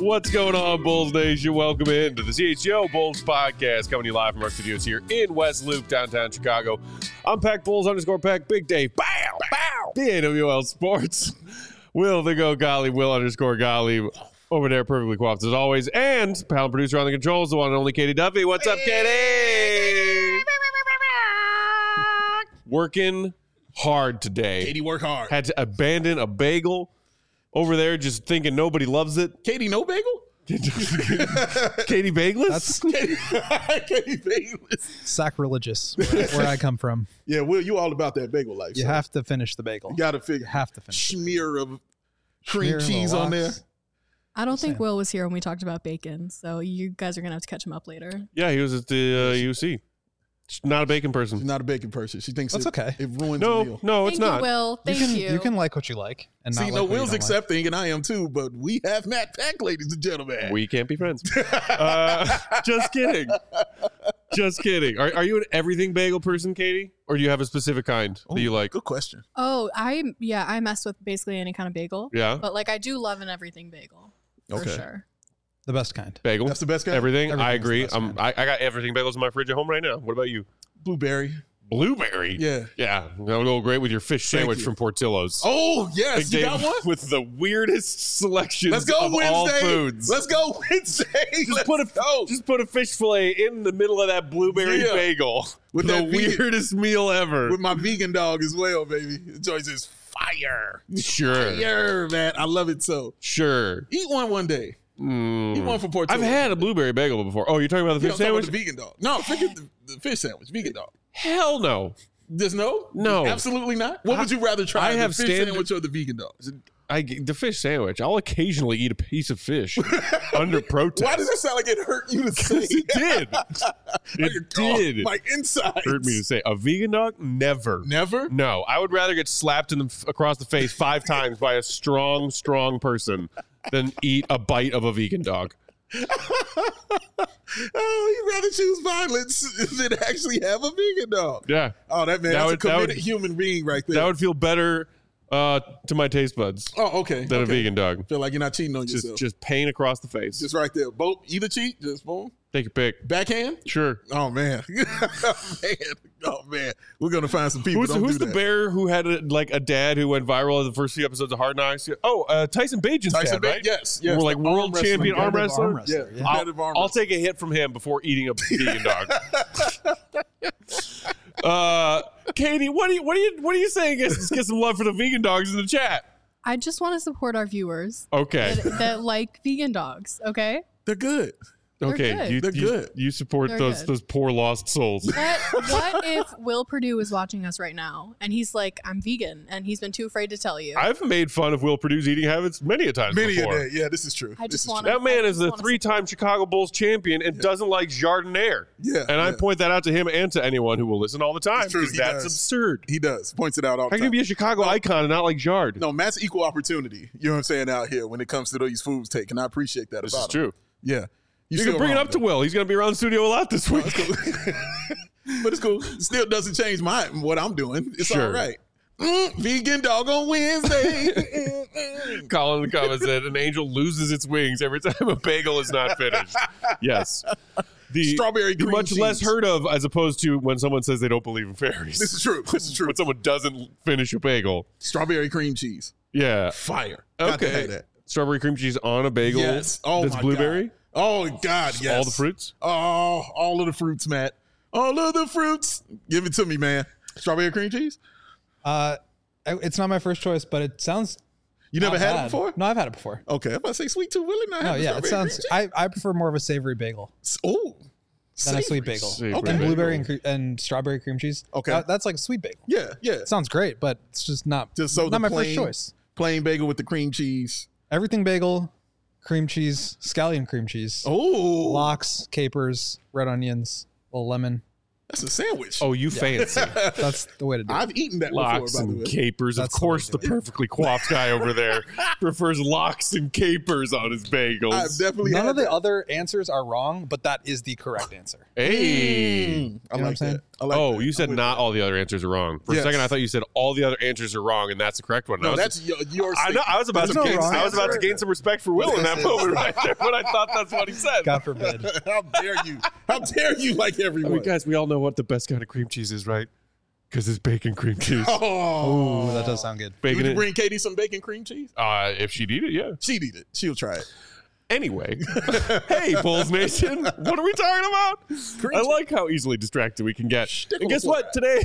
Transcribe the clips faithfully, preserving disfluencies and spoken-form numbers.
What's going on, Bulls Nation? Welcome in to the C H G O Bulls podcast, coming to you live from our studios here in West Loop, downtown Chicago. I'm Pack Bulls underscore Pack, Big Dave, bow, bow, the A W L Sports. Will the Go Golly, Will underscore Golly, over there, perfectly coiffed as always. And panel producer on the controls, the one and only Katie Duffy. What's up, Katie? Working hard today. Katie work hard. Had to abandon a bagel over there, just thinking nobody loves it. Katie no bagel? Katie Bageless? That's Katie, Katie Bageless. sacrilegious, where, where I come from. Yeah, Will, you all about that bagel life. You so have to finish the bagel. You got to figure. You have to finish it. Smear of cream Smear cheese the on there. lox. I don't think Same. Will was here when we talked about bacon, so you guys are going to have to catch him up later. Yeah, he was at the uh, U C. She's not a bacon person. She's not a bacon person. She thinks That's it, okay. it ruins the No, meal. no, it's Thank not. you, Will. Thank you you. can you can like what you like and See, not no, like what Will's you don't like. accepting, and I am too, but we have Matt Pack, ladies and gentlemen. We can't be friends. uh, just kidding. Just kidding. Are, are you an everything bagel person, Katie? Or do you have a specific kind Ooh, that you like? Good question. Oh, I yeah, I mess with basically any kind of bagel. Yeah. But like I do love an everything bagel. For Okay. sure. The best kind. Bagel. That's the best kind? Everything. I Everything's the agree. best Um, I, I got everything bagels in my fridge at home right now. What about you? Blueberry. Blueberry. Yeah. Yeah. That'll go great with your fish Thank sandwich you. from Portillo's. Oh, yes. Big You Dave got one? with the weirdest selections Let's go of all Wednesday. foods. Let's go Wednesday. Just Let's put a go. just put a fish fillet in the middle of that blueberry Yeah. bagel. With the that vegan- weirdest meal ever. With my vegan dog as well, baby. The choice is fire. Sure. Fire, man. I love it so. Sure. Eat one one day. Mm. Eat one for Portillo's. I've had a blueberry bagel before. Oh, you're talking about the Yeah, fish I'm talking about sandwich? the vegan dog. No, forget the, the fish sandwich. Vegan dog. Hell no. Just no? No. Absolutely not? What I- would you rather try, I the have fish standard- sandwich or the vegan dog? I the fish sandwich. I'll occasionally eat a piece of fish under protest. Why does that sound like it hurt you to say? it did. Like, It oh, did. My insides. Hurt me to say. A vegan dog? Never. Never? No, I would rather get slapped in the, across the face five times by a strong, strong person than eat a bite of a vegan dog. Oh, you'd rather choose violence than actually have a vegan dog. Yeah, Oh, that man, That that's would- a that committed would- human being right there. that would feel better uh, to my taste buds oh, okay. than a okay. vegan dog. Feel like you're not cheating on Just, yourself. just pain across the face. Just right there. Both, either cheat, just boom. Take your pick. Backhand? Sure. Oh, man. oh, man. Oh, man. We're going to find some people Who's, don't who's do the that. bear who had a, like a dad who went viral in the first few episodes of Hard Knocks? Oh, uh, Tyson Bajan's Tyson dad, Ba- right? yes, yes, We're like the world arm champion wrestling arm Competitive wrestler. arm wrestler, Yeah, yeah. I'll, competitive arm I'll wrestling. take a hit from him before eating a vegan dog. uh, Katie, what do you what do you what are you saying? Get, get some love for the vegan dogs in the chat. I just want to support our viewers Okay, that, that like vegan dogs, okay? They're good. They're okay, good. you, They're you, good. you support They're those good. those poor lost souls. What what if Will Purdue is watching us right now and he's like, I'm vegan, and he's been too afraid to tell you? I've made fun of Will Purdue's eating habits many a time Many a before. day. Yeah, this is true. I This just is want true. That man I is just a wanna three-time Chicago Bulls champion and doesn't like Jardiniere. Yeah, And I yeah. point that out to him and to anyone who will listen all the time It's true, because he that's does. absurd. He does. Points it out all How the can you time. be a Chicago icon and not like Jard? No, Matt's equal opportunity. You know what I'm saying out here when it comes to these foods take, and I appreciate that This about is true. him. Yeah. You still can bring it wrong, up to though. Will. He's going to be around the studio a lot this week. It's cool. But it's cool. It still doesn't change my what I'm doing. It's Sure. all right. Mm, vegan dog on Wednesday. Colin in the comments said an angel loses its wings every time a bagel is not finished. Yes. The Strawberry the cream much cheese. less heard of as opposed to when someone says they don't believe in fairies. This is true. This is true. When someone doesn't finish a bagel. Strawberry cream cheese. Yeah. Fire. Got to Okay. have that. Strawberry cream cheese on a bagel. Yes. Oh, that's my blueberry. God. Oh, God, yes. All the fruits. Oh, all of the fruits, Matt. All of the fruits. Give it to me, man. Strawberry cream cheese? Uh, I- it's not my first choice, but it sounds. You never not had bad. it before? No, I've had it before. Okay, I'm about to say sweet tooth. Really not No, having yeah, it strawberry sounds. cream I, I prefer more of a savory bagel cheese? Oh. than a sweet bagel. Savory And bagel. blueberry and, cre- and strawberry cream cheese. Okay. That- that's like a sweet bagel. Yeah, yeah. It sounds great, but it's just not. Just so not the my plain, first choice. Plain bagel with the cream cheese. Everything bagel, cream cheese, scallion cream cheese, Oh. lox, capers, red onions, a little lemon. That's a sandwich. Oh, you fancy. That's the way to do it. I've eaten that Locks before, by the and way. capers. That's of the way course, to the do it. perfectly coiffed guy over there prefers locks and capers on his bagels. I've definitely None had of the that. other answers are wrong, but that is the correct answer. Hey. Mm, I You know what I'm like saying? that. I like Oh, that. you I'm said with not that. all the other answers are wrong. For Yes. a second, I thought you said all the other answers are wrong, and that's the correct one. I No, was- that's your, your I know. I was about to There's no gain. wrong I was about to answer. gain some respect for Will in that moment right there, but I thought that's what he said. God forbid. How dare you? How dare you like I everyone? mean, guys, we all know what the best kind of cream cheese is, right? Because it's bacon cream cheese. Oh, Ooh, that does sound good. Bacon. Would you it- bring Katie some bacon cream cheese? uh, if she'd eat it, yeah. She'd eat it. She'll try it. Anyway, hey, Bulls Nation, what are we talking about? I like how easily distracted we can get. And guess what? Today,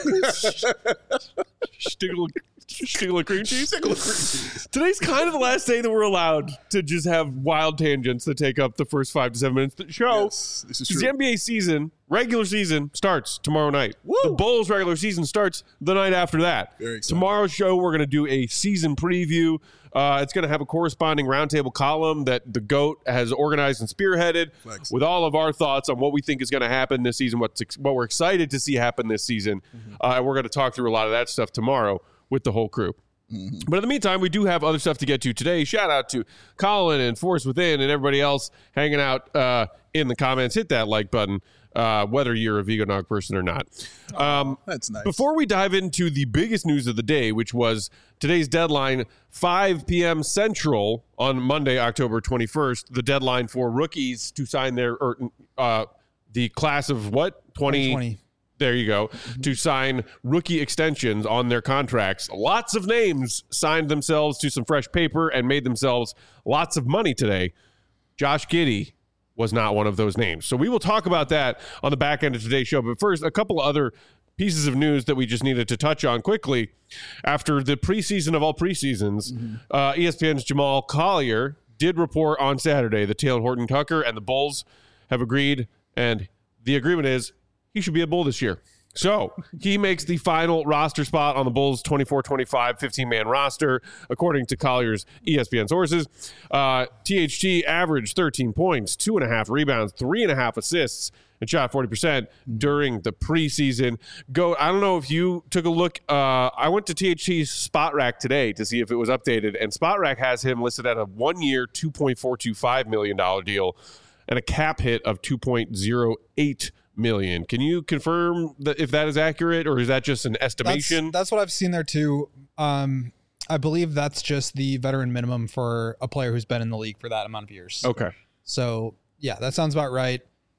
Stiggle, Stiggle of cream cheese. Stickle of cream cheese. Today's kind of the last day that we're allowed to just have wild tangents that take up the first five to seven minutes of the show. Yes, this is Because true. the N B A season, regular season, starts tomorrow night. Woo. The Bulls regular season starts the night after that. Very exciting. Tomorrow's show, we're going to do a season preview. Uh, it's going to have a corresponding roundtable column that the GOAT has organized and spearheaded Flex. with all of our thoughts on what we think is going to happen this season, what's ex- what we're excited to see happen this season. Mm-hmm. Uh, and we're going to talk through a lot of that stuff tomorrow with the whole crew. Mm-hmm. But in the meantime, we do have other stuff to get to today. Shout out to Colin and Force Within and everybody else hanging out uh, in the comments. Hit that like button, uh, whether you're a vegan dog person or not. Um, That's nice. before we dive into the biggest news of the day, which was today's deadline, five p.m. Central on Monday, October twenty-first, the deadline for rookies to sign their, or uh, the class of what? twenty twenty. There you go. To sign rookie extensions on their contracts. Lots of names signed themselves to some fresh paper and made themselves lots of money today. Josh Giddey was not one of those names. So we will talk about that on the back end of today's show. But first, a couple of other pieces of news that we just needed to touch on quickly. After the preseason of all preseasons, mm-hmm. uh, E S P N's Jamal Collier did report on Saturday that Taylor Horton Tucker and the Bulls have agreed, and the agreement is he should be a Bull this year. So he makes the final roster spot on the Bulls' twenty-four twenty-five fifteen-man roster, according to Collier's E S P N sources. Uh, T H T averaged thirteen points, two and a half rebounds, three and a half assists, and shot forty percent during the preseason. Go. I don't know if you took a look. Uh, I went to T H T's Spot Rack today to see if it was updated, and Spot Rack has him listed at a one-year, two point four two five million dollars deal and a cap hit of two point oh eight million. Can you confirm that if that is accurate, or is that just an estimation? That's, that's what I've seen there too. Um, I believe that's just the veteran minimum for a player who's been in the league for that amount of years. Okay. So yeah, that sounds about right.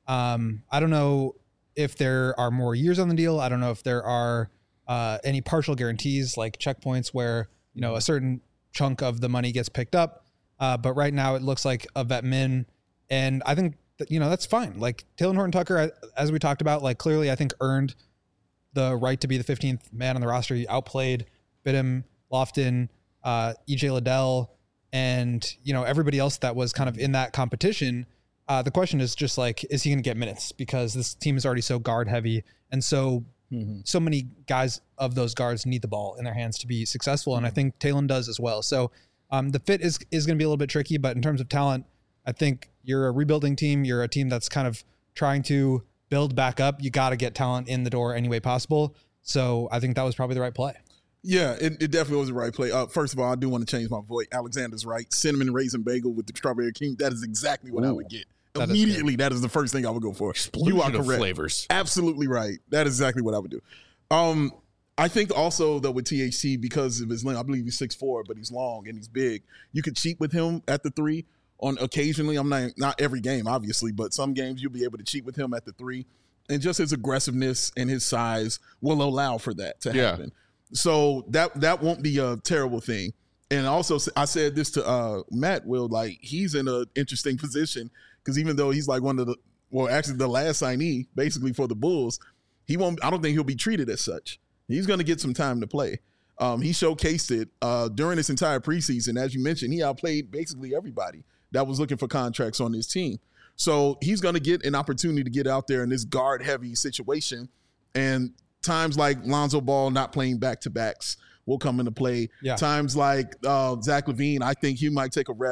Um, I don't know if there are more years on the deal. I don't know if there are uh, any partial guarantees like checkpoints where, you know, a certain chunk of the money gets picked up. Uh, but right now it looks like a vet min. And I think that, you know, that's fine. Like Taylor Horton Tucker, as we talked about, like clearly I think earned the right to be the fifteenth man on the roster. He outplayed Bidham, Lofton, uh, E J Liddell, and, you know, everybody else that was kind of in that competition. Uh, the question is just like, is he going to get minutes? Because this team is already so guard heavy. And so, mm-hmm. so many guys of those guards need the ball in their hands to be successful. And I think Taylor does as well. So um, the fit is, is going to be a little bit tricky, but in terms of talent, I think you're a rebuilding team. You're a team that's kind of trying to build back up. You got to get talent in the door any way possible. So I think that was probably the right play. Yeah, it, it definitely was the right play. Uh, first of all, I do want to change my voice. Alexander's right. Cinnamon raisin bagel with the strawberry cream. That is exactly what Ooh, I would get. that Immediately, is that is the first thing I would go for. Explosion you are of correct. flavors. Absolutely right. That is exactly what I would do. Um, I think also that with T H C, because of his length, I believe he's six foot four, but he's long and he's big. You could cheat with him at the three. On occasionally, I'm not not every game, obviously, but some games you'll be able to cheat with him at the three, and just his aggressiveness and his size will allow for that to Yeah. happen. So that that won't be a terrible thing. And also, I said this to uh, Matt. Will, like, he's in an interesting position because even though he's like one of the well, actually the last signee basically for the Bulls, he won't. I don't think he'll be treated as such. He's going to get some time to play. Um, he showcased it uh, during this entire preseason. As you mentioned, he outplayed basically everybody that was looking for contracts on his team. So he's going to get an opportunity to get out there in this guard-heavy situation. And times like Lonzo Ball not playing back-to-backs will come into play. Yeah. Times like uh, Zach LaVine, I think he might take a rest,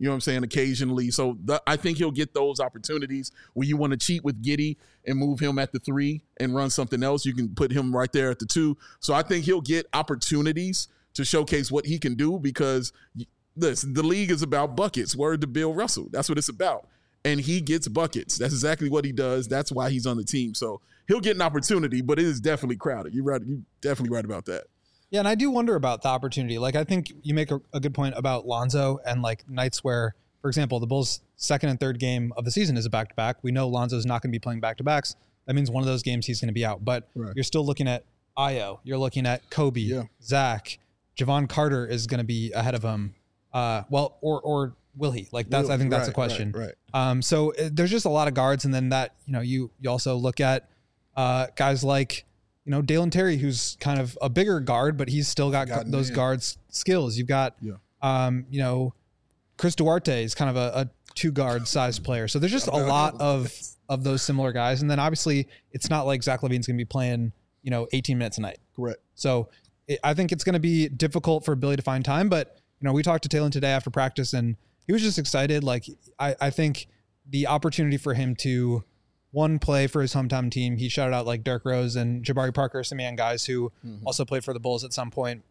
You know what I'm saying? Occasionally. So the, I think he'll get those opportunities where you want to cheat with Giddey and move him at the three and run something else. You can put him right there at the two. So I think he'll get opportunities to showcase what he can do because this, the league is about buckets. Word to Bill Russell. That's what it's about. And he gets buckets. That's exactly what he does. That's why he's on the team. So he'll get an opportunity, but it is definitely crowded. You're right. You're definitely right about that. Yeah, and I do wonder about the opportunity. Like, I think you make a, a good point about Lonzo and, like, nights where, for example, the Bulls' second and third game of the season is a back-to-back. We know Lonzo's not going to be playing back-to-backs. That means one of those games he's going to be out. But right. You're still looking at Ayo. You're looking at Kobe, yeah. Zach. Javon Carter is going to be ahead of him. Uh, well, or or will he? Like, that's will, I think that's right, a question. Right, right. Um, so it, there's just a lot of guards. And then that, you know, you, you also look at uh, guys like, you know, Dalen Terry, who's kind of a bigger guard, but he's still got gu- those guards skills. You've got, yeah. um, you know, Chris Duarte is kind of a, a two guard size player. So there's just a lot of, of those similar guys. And then obviously it's not like Zach LaVine's going to be playing, you know, eighteen minutes a night. Correct. So it, I think it's going to be difficult for Billy to find time, but you know, we talked to Taylor today after practice and he was just excited. Like I, I think the opportunity for him to, one play for his hometown team. He shouted out like Derrick Rose and Jabari Parker, some young guys who mm-hmm. also played for the Bulls at some point.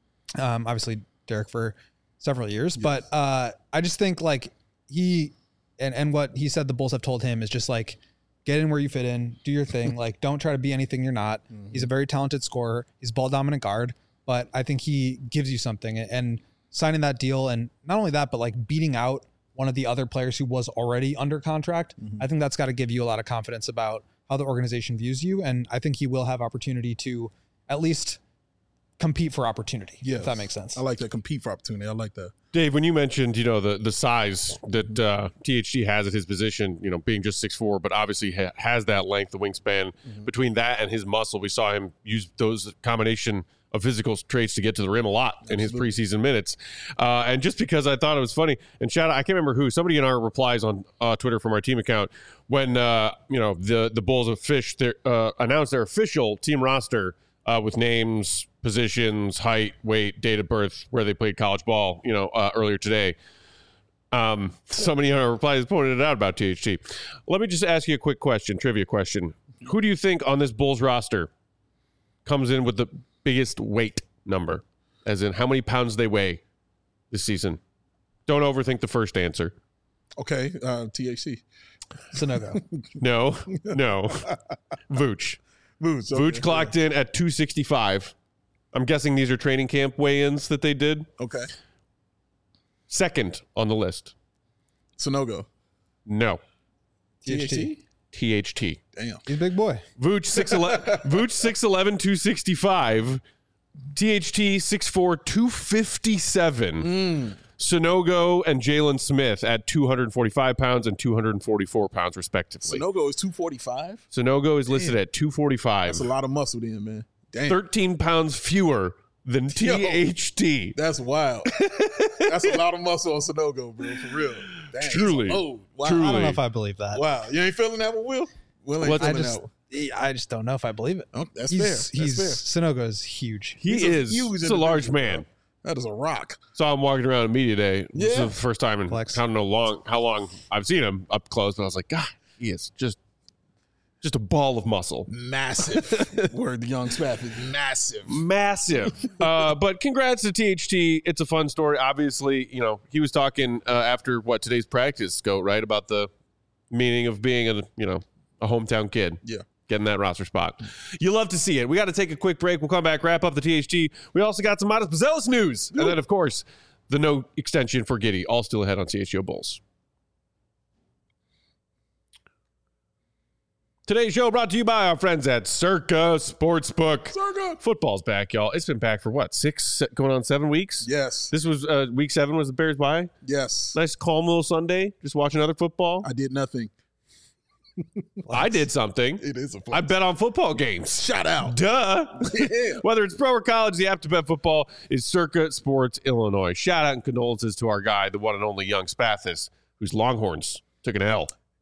Um, obviously Derrick for several years, yes. but uh, I just think like he and, and what he said the Bulls have told him is just like, get in where you fit in, do your thing. Like, don't try to be anything you're not. Mm-hmm. He's a very talented scorer. He's ball dominant guard, but I think he gives you something and signing that deal. And not only that, but like beating out one of the other players who was already under contract. Mm-hmm. I think that's got to give you a lot of confidence about how the organization views you. And I think he will have opportunity to at least compete for opportunity, yes. if that makes sense. I like that. Compete for opportunity. I like that. Dave, when you mentioned, you know, the, the size that uh, T H T has at his position, you know, being just six foot four, but obviously ha- has that length, the wingspan mm-hmm. between that and his muscle. We saw him use those combination of physical traits to get to the rim a lot Absolutely. In his preseason minutes. Uh, and just because I thought it was funny, and shout out, I can't remember who, somebody in our replies on uh, Twitter from our team account, when, uh, you know, the, the Bulls of Fish their, uh, announced their official team roster uh, with names, positions, height, weight, date of birth, where they played college ball, you know, uh, earlier today. Um, somebody in our replies pointed it out about T H T. Let me just ask you a quick question, trivia question. Who do you think on this Bulls roster comes in with the biggest weight number, as in how many pounds they weigh this season? Don't overthink the first answer. Okay, uh, T H C. Sanogo. No, no. Vooch. Vooch, okay. Vooch clocked in at two sixty-five. I'm guessing these are training camp weigh-ins that they did. Okay. Second on the list. Sanogo. No. T H T. T H T. Damn. He's a big boy. Vooch six eleven, Vooch six eleven, two sixty-five. T H T six four, two fifty-seven. Mm. Sanogo and Jalen Smith at two forty-five pounds and two forty-four pounds, respectively. Sanogo is two forty-five? Sanogo is listed Damn. At two forty-five. That's a lot of muscle then, man. Damn. thirteen pounds fewer than T H T. Yo, that's wild. That's a lot of muscle on Sanogo, bro, for real. Damn, truly. Oh, wow. Truly. I don't know if I believe that. Wow. You ain't feeling that with Will? Will ain't What, feeling I just, that. I just don't know if I believe it. Oh, that's he's, fair. That's he's, fair. Sanogo is huge. He he's is. A He's a large man. Bro. That is a rock. Saw him walking around at media day. Yeah. This is the first time in Flex. I don't know long how long I've seen him up close, but I was like, God, he is just just a ball of muscle. Massive. Word, the young Spath is massive. Massive. uh, but congrats to T H T. It's a fun story. Obviously, you know, he was talking uh, after what today's practice go, right? About the meaning of being a, you know, a hometown kid. Yeah. Getting that roster spot. You love to see it. We got to take a quick break. We'll come back, wrap up the T H T. We also got some Midas Bazelis news. And then, of course, the no extension for Giddey. All still ahead on C H G O Bulls. Today's show brought to you by our friends at Circa Sportsbook. Circa. Football's back, y'all. It's been back for what, six, going on seven weeks? Yes. This was uh, week seven was the Bears bye? Yes. Nice, calm little Sunday. Just watching other football. I did nothing. I did something. It is a I bet on football games. Shout out. Duh. Yeah. Whether it's pro or college, the app to bet football is Circa Sports Illinois. Shout out and condolences to our guy, the one and only young Spathis, whose Longhorns took an L.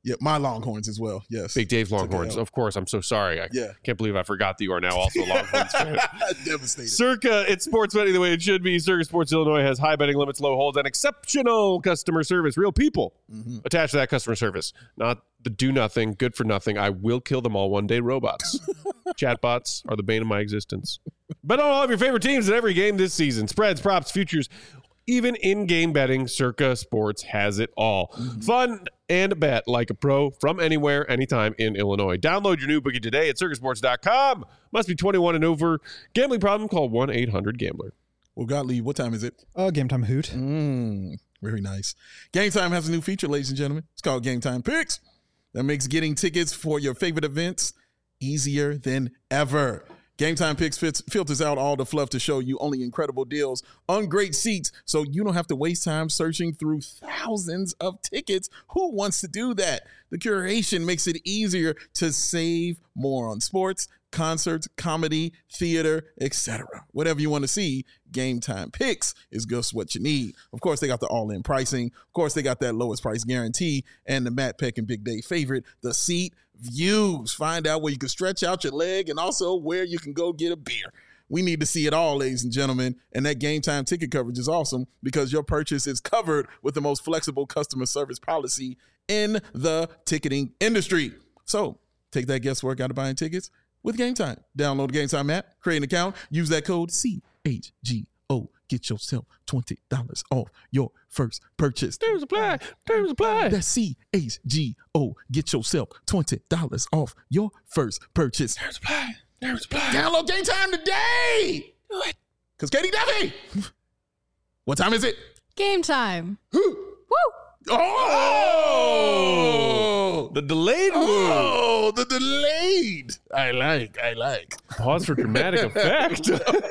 Yeah, my Longhorns as well. Yes. Big Dave Took the Longhorns. L. Of course, I'm so sorry. I Yeah. can't believe I forgot that you are now also a Longhorns fan. Devastated. Circa, it's sports betting the way it should be. Circa Sports Illinois has high betting limits, low holds, and exceptional customer service. Real people Mm-hmm. attached to that customer service. Not the do nothing, good for nothing. I will kill them all one day robots. Chatbots are the bane of my existence. Bet on all of your favorite teams at every game this season. Spreads, props, futures, even in-game betting, Circa Sports has it all. Mm-hmm. Fun and bet like a pro from anywhere, anytime in Illinois. Download your new bookie today at circa sports dot com. Must be twenty-one and over. Gambling problem? Call one eight hundred gambler. Well, Gottlieb, what time is it? Oh, game time hoot. Mm, very nice. Game Time has a new feature, ladies and gentlemen. It's called Game Time Picks. That makes getting tickets for your favorite events easier than ever. Game Time Picks fits, filters out all the fluff to show you only incredible deals on great seats, so you don't have to waste time searching through thousands of tickets. Who wants to do that? The curation makes it easier to save more on sports, concerts, comedy, theater, et cetera. Whatever you want to see, Game Time Picks is just what you need. Of course, they got the all-in pricing. Of course, they got that lowest price guarantee, and the Matt Peck and Big Dave favorite, the seat views. Find out where you can stretch out your leg and also where you can go get a beer. We need to see it all, ladies and gentlemen, and that Game Time ticket coverage is awesome because your purchase is covered with the most flexible customer service policy in the ticketing industry. So take that guesswork out of buying tickets with Game Time. Download the Game Time app, create an account, use that code C H G O. Get yourself twenty dollars off your first purchase. Terms apply. Terms apply. That's C H G O. Get yourself twenty dollars off your first purchase. Terms apply. Terms apply. Download Game Time today. Do it. Because Katie Duffy. What time is it? Game time. Woo. Oh! The delayed move. Oh, the delayed. I like, I like. Pause for dramatic effect.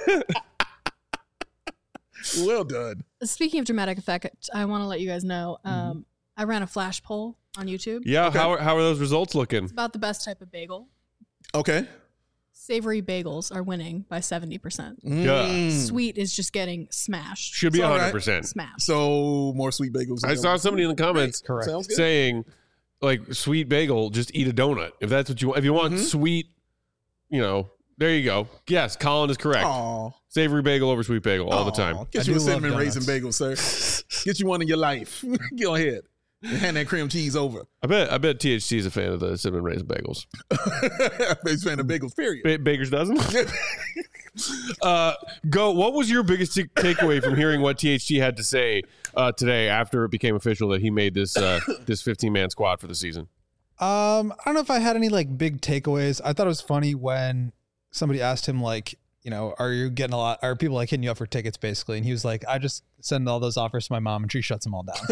Well done. Speaking of dramatic effect, I want to let you guys know um, I ran a flash poll on YouTube Yeah, Okay. how, are, how are those results looking? about the best type of bagel. Okay. Savory bagels are winning by seventy percent. Yeah. Sweet is just getting smashed. Should be It's all right. one hundred percent. Smashed. So more sweet bagels. I saw somebody in the comments Correct. Sounds good. saying, like, sweet bagel, just eat a donut. If that's what you want. If you want Mhm. sweet, you know, there you go. Yes, Colin is correct. Aw. Savory bagel over sweet bagel all the time. Get I you a do love cinnamon raisin donuts. bagel, sir. Get you one in your life. Go ahead. And hand that cream cheese over. I bet I bet T H C is a fan of the cinnamon raisin bagels. Big fan of bagels, period. Ba- Baker's dozen. uh, go. What was your biggest t- takeaway from hearing what T H C had to say uh, today after it became official that he made this uh, this fifteen man squad for the season? Um, I don't know if I had any like big takeaways. I thought it was funny when somebody asked him like, you know, are you getting a lot? Are people like hitting you up for tickets basically? And he was like, I just send all those offers to my mom and she shuts them all down.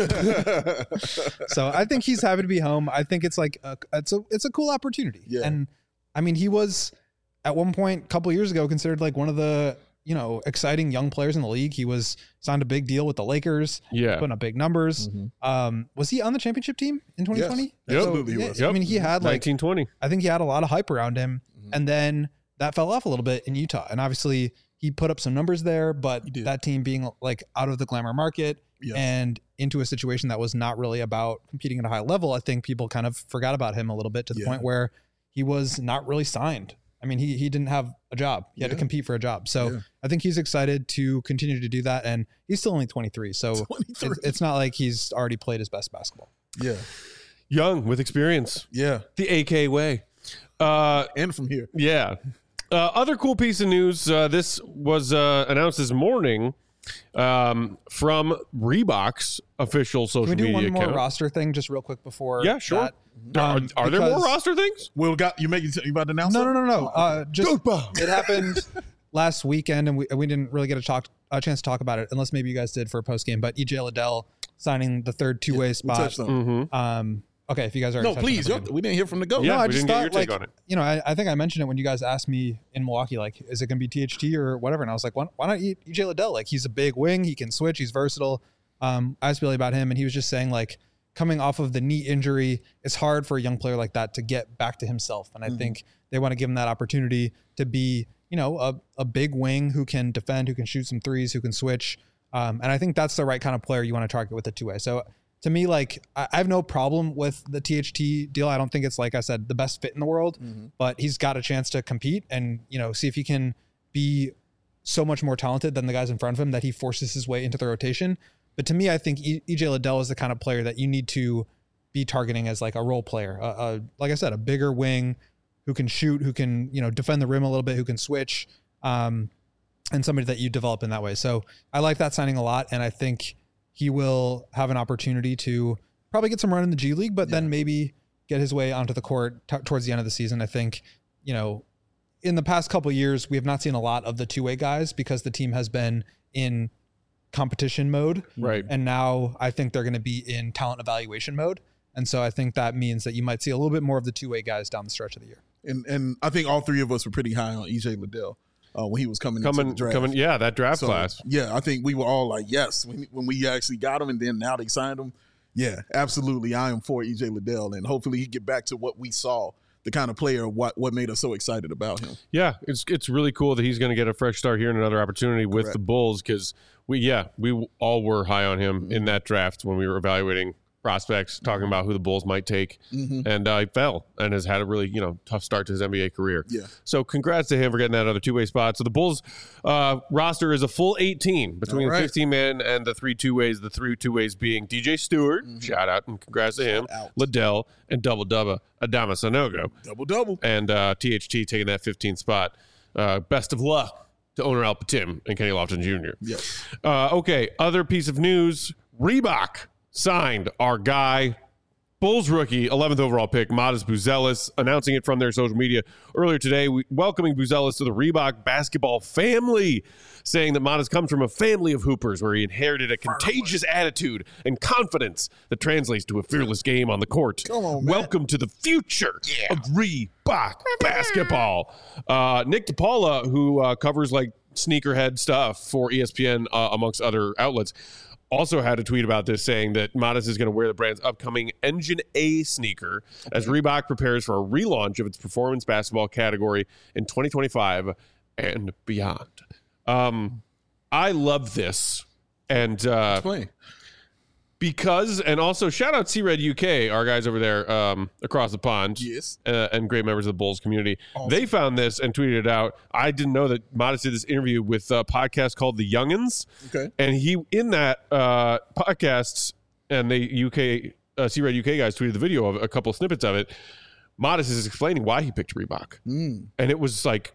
So I think he's happy to be home. I think it's like a, it's a it's a cool opportunity. Yeah. And I mean, he was at one point a couple years ago considered like one of the, you know, exciting young players in the league. He was signed a big deal with the Lakers, Yeah. putting up big numbers. Mhm. Um, was he on the championship team in twenty twenty? Yes, absolutely he yeah, was. I mean, he had like nineteen twenty. I think he had a lot of hype around him, Mhm. and then that fell off a little bit in Utah. And obviously, he put up some numbers there, but He did. that team being like out of the glamour market Yes. and into a situation that was not really about competing at a high level, I think people kind of forgot about him a little bit to the Yeah. point where he was not really signed. I mean, he he didn't have a job. He had to Yeah. compete for a job. So Yeah. I think he's excited to continue to do that. And he's still only twenty-three. So twenty-three. it's, it's not like he's already played his best basketball. Yeah. Young with experience. Yeah. The A K way. Uh, And from here. yeah. Uh, other cool piece of news. Uh, this was uh, announced this morning um, from Reebok's official social Can we do media one more account. roster thing just real quick before? Yeah, sure. that? Are, Um, are there more because- roster things? Will got you making you about to announce No, it? no, no, no. Uh, just Dude, Bob. it happened last weekend, and we we didn't really get a talk a chance to talk about it, unless maybe you guys did for a post game. But E J Liddell signing the third two way We spot. touched on it. Mm-hmm. Um, okay, if you guys are No, please. y'all- We didn't hear from the goat. Yeah, no, I we just didn't get thought your take like on it. you know I, I think I mentioned it when you guys asked me in Milwaukee, like, is it going to be T H T or whatever? And I was like, why, why not E J Liddell? Like, he's a big wing, he can switch, he's versatile. Um, I asked Billy about him, and he was just saying like, coming off of the knee injury, it's hard for a young player like that to get back to himself. And I Mhm. think they want to give him that opportunity to be, you know, a, a big wing who can defend, who can shoot some threes, who can switch. Um, and I think that's the right kind of player you want to target with a two way. So to me, like I I have no problem with the T H T deal. I don't think it's, like I said, the best fit in the world, Mm-hmm. but he's got a chance to compete and, you know, see if he can be so much more talented than the guys in front of him that he forces his way into the rotation. But to me, I think E J Liddell is the kind of player that you need to be targeting as like a role player. Uh, uh, like I said, a bigger wing who can shoot, who can, you know, defend the rim a little bit, who can switch, um, and somebody that you develop in that way. So I like that signing a lot. And I think he will have an opportunity to probably get some run in the G League, but yeah. then maybe get his way onto the court t- towards the end of the season. I think, you know, in the past couple of years, we have not seen a lot of the two-way guys because the team has been in competition mode. Right. And now I think they're going to be in talent evaluation mode. And so I think that means that you might see a little bit more of the two-way guys down the stretch of the year. And and I think all three of us were pretty high on E J Liddell uh, when he was coming, coming into the draft. Coming, yeah, that draft so, class. Yeah, I think we were all like, yes, when, when we actually got him and then now they signed him. Yeah, absolutely. I am for E J Liddell, and hopefully he get back to what we saw, the kind of player, what what made us so excited about him. Yeah, it's it's really cool that he's going to get a fresh start here and another opportunity with Correct. the Bulls because we, yeah, we all were high on him Mm-hmm. in that draft when we were evaluating prospects, talking about who the Bulls might take, Mm-hmm. and uh, he fell and has had a really, you know, tough start to his N B A career. Yeah. So congrats to him for getting that other two-way spot. So the Bulls uh, roster is a full eighteen between All right. the fifteen men and the three two-ways, the three two-ways being D J Stewart, Mm-hmm. shout out and congrats to him, out. Liddell, and Double Dubba, Adama Sanogo. Double double. And uh, T H T taking that fifteenth spot. Uh, best of luck to owner Al Patim and Kenny Lofton Junior Yes. Uh, okay, other piece of news. Reebok signed our guy, Bulls rookie, eleventh overall pick, Modest Buzelis, announcing it from their social media earlier today, we, welcoming Buzelis to the Reebok basketball family, saying that Modest comes from a family of hoopers where he inherited a contagious attitude and confidence that translates to a fearless game on the court. Come on, man. Welcome to the future of Reebok basketball. Uh, Nick DePaula, who uh, covers like sneakerhead stuff for E S P N, uh, amongst other outlets, also had a tweet about this saying that Modest is going to wear the brand's upcoming Engine A sneaker as Reebok prepares for a relaunch of its performance basketball category in twenty twenty-five and beyond. Um, I love this. And uh, Explain. because, and also shout out C-Red U K, our guys over there um, across the pond. Yes. Uh, and great members of the Bulls community. Awesome. They found this and tweeted it out. I didn't know that Modest did this interview with a podcast called The Youngins. Okay. And he, in that uh, podcast, and the U K, uh, C-Red U K guys tweeted the video of a couple snippets of it. Modest is explaining why he picked Reebok. Mm. And it was like,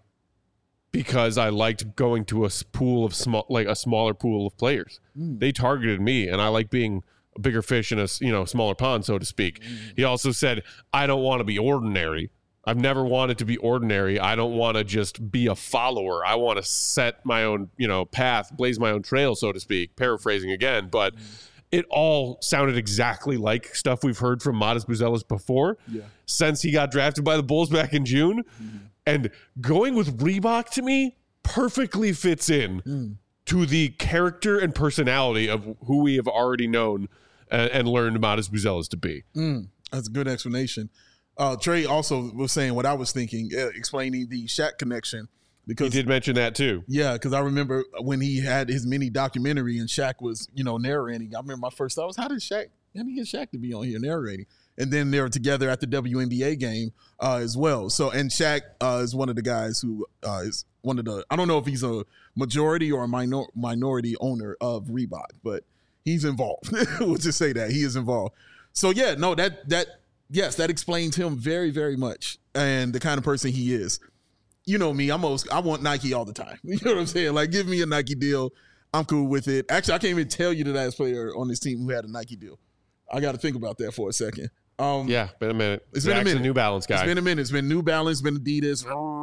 because I liked going to a s- pool of small, like a smaller pool of players. Mm. They targeted me, and I like being a bigger fish in a s- you know smaller pond, so to speak. Mm. He also said, I don't want to be ordinary. I've never wanted to be ordinary. I don't want to just be a follower. I want to set my own, you know, path, blaze my own trail, so to speak. Paraphrasing again, but it all sounded exactly like stuff we've heard from Modest Buzelis before. Yeah. Since he got drafted by the Bulls back in June. Mm-hmm. And going with Reebok to me perfectly fits in Mm. to the character and personality of who we have already known and, and learned Modest Buzelis to be. Mm. That's a good explanation. Uh, Trey also was saying what I was thinking, uh, explaining the Shaq connection. He Because did mention that too. yeah, because I remember when he had his mini documentary and Shaq was, you know, narrating. I remember my first thought was, how did Shaq, how did he get Shaq to be on here narrating? And then they were together at the W N B A game uh, as well. So, and Shaq uh, is one of the guys who uh, is one of the, I don't know if he's a majority or a minor, minority owner of Reebok, but he's involved. We'll just say that he is involved. So yeah, no, that, that, yes, that explains him very, very much and the kind of person he is. You know me, I'm most, I want Nike all the time. You know what I'm saying? Like, give me a Nike deal. I'm cool with it. Actually, I can't even tell you the last player on this team who had a Nike deal. I got to think about that for a second. Um, Yeah, been a minute. It's been a Zach's minute. New Balance guy. It's been a minute. It's been New Balance, been Adidas,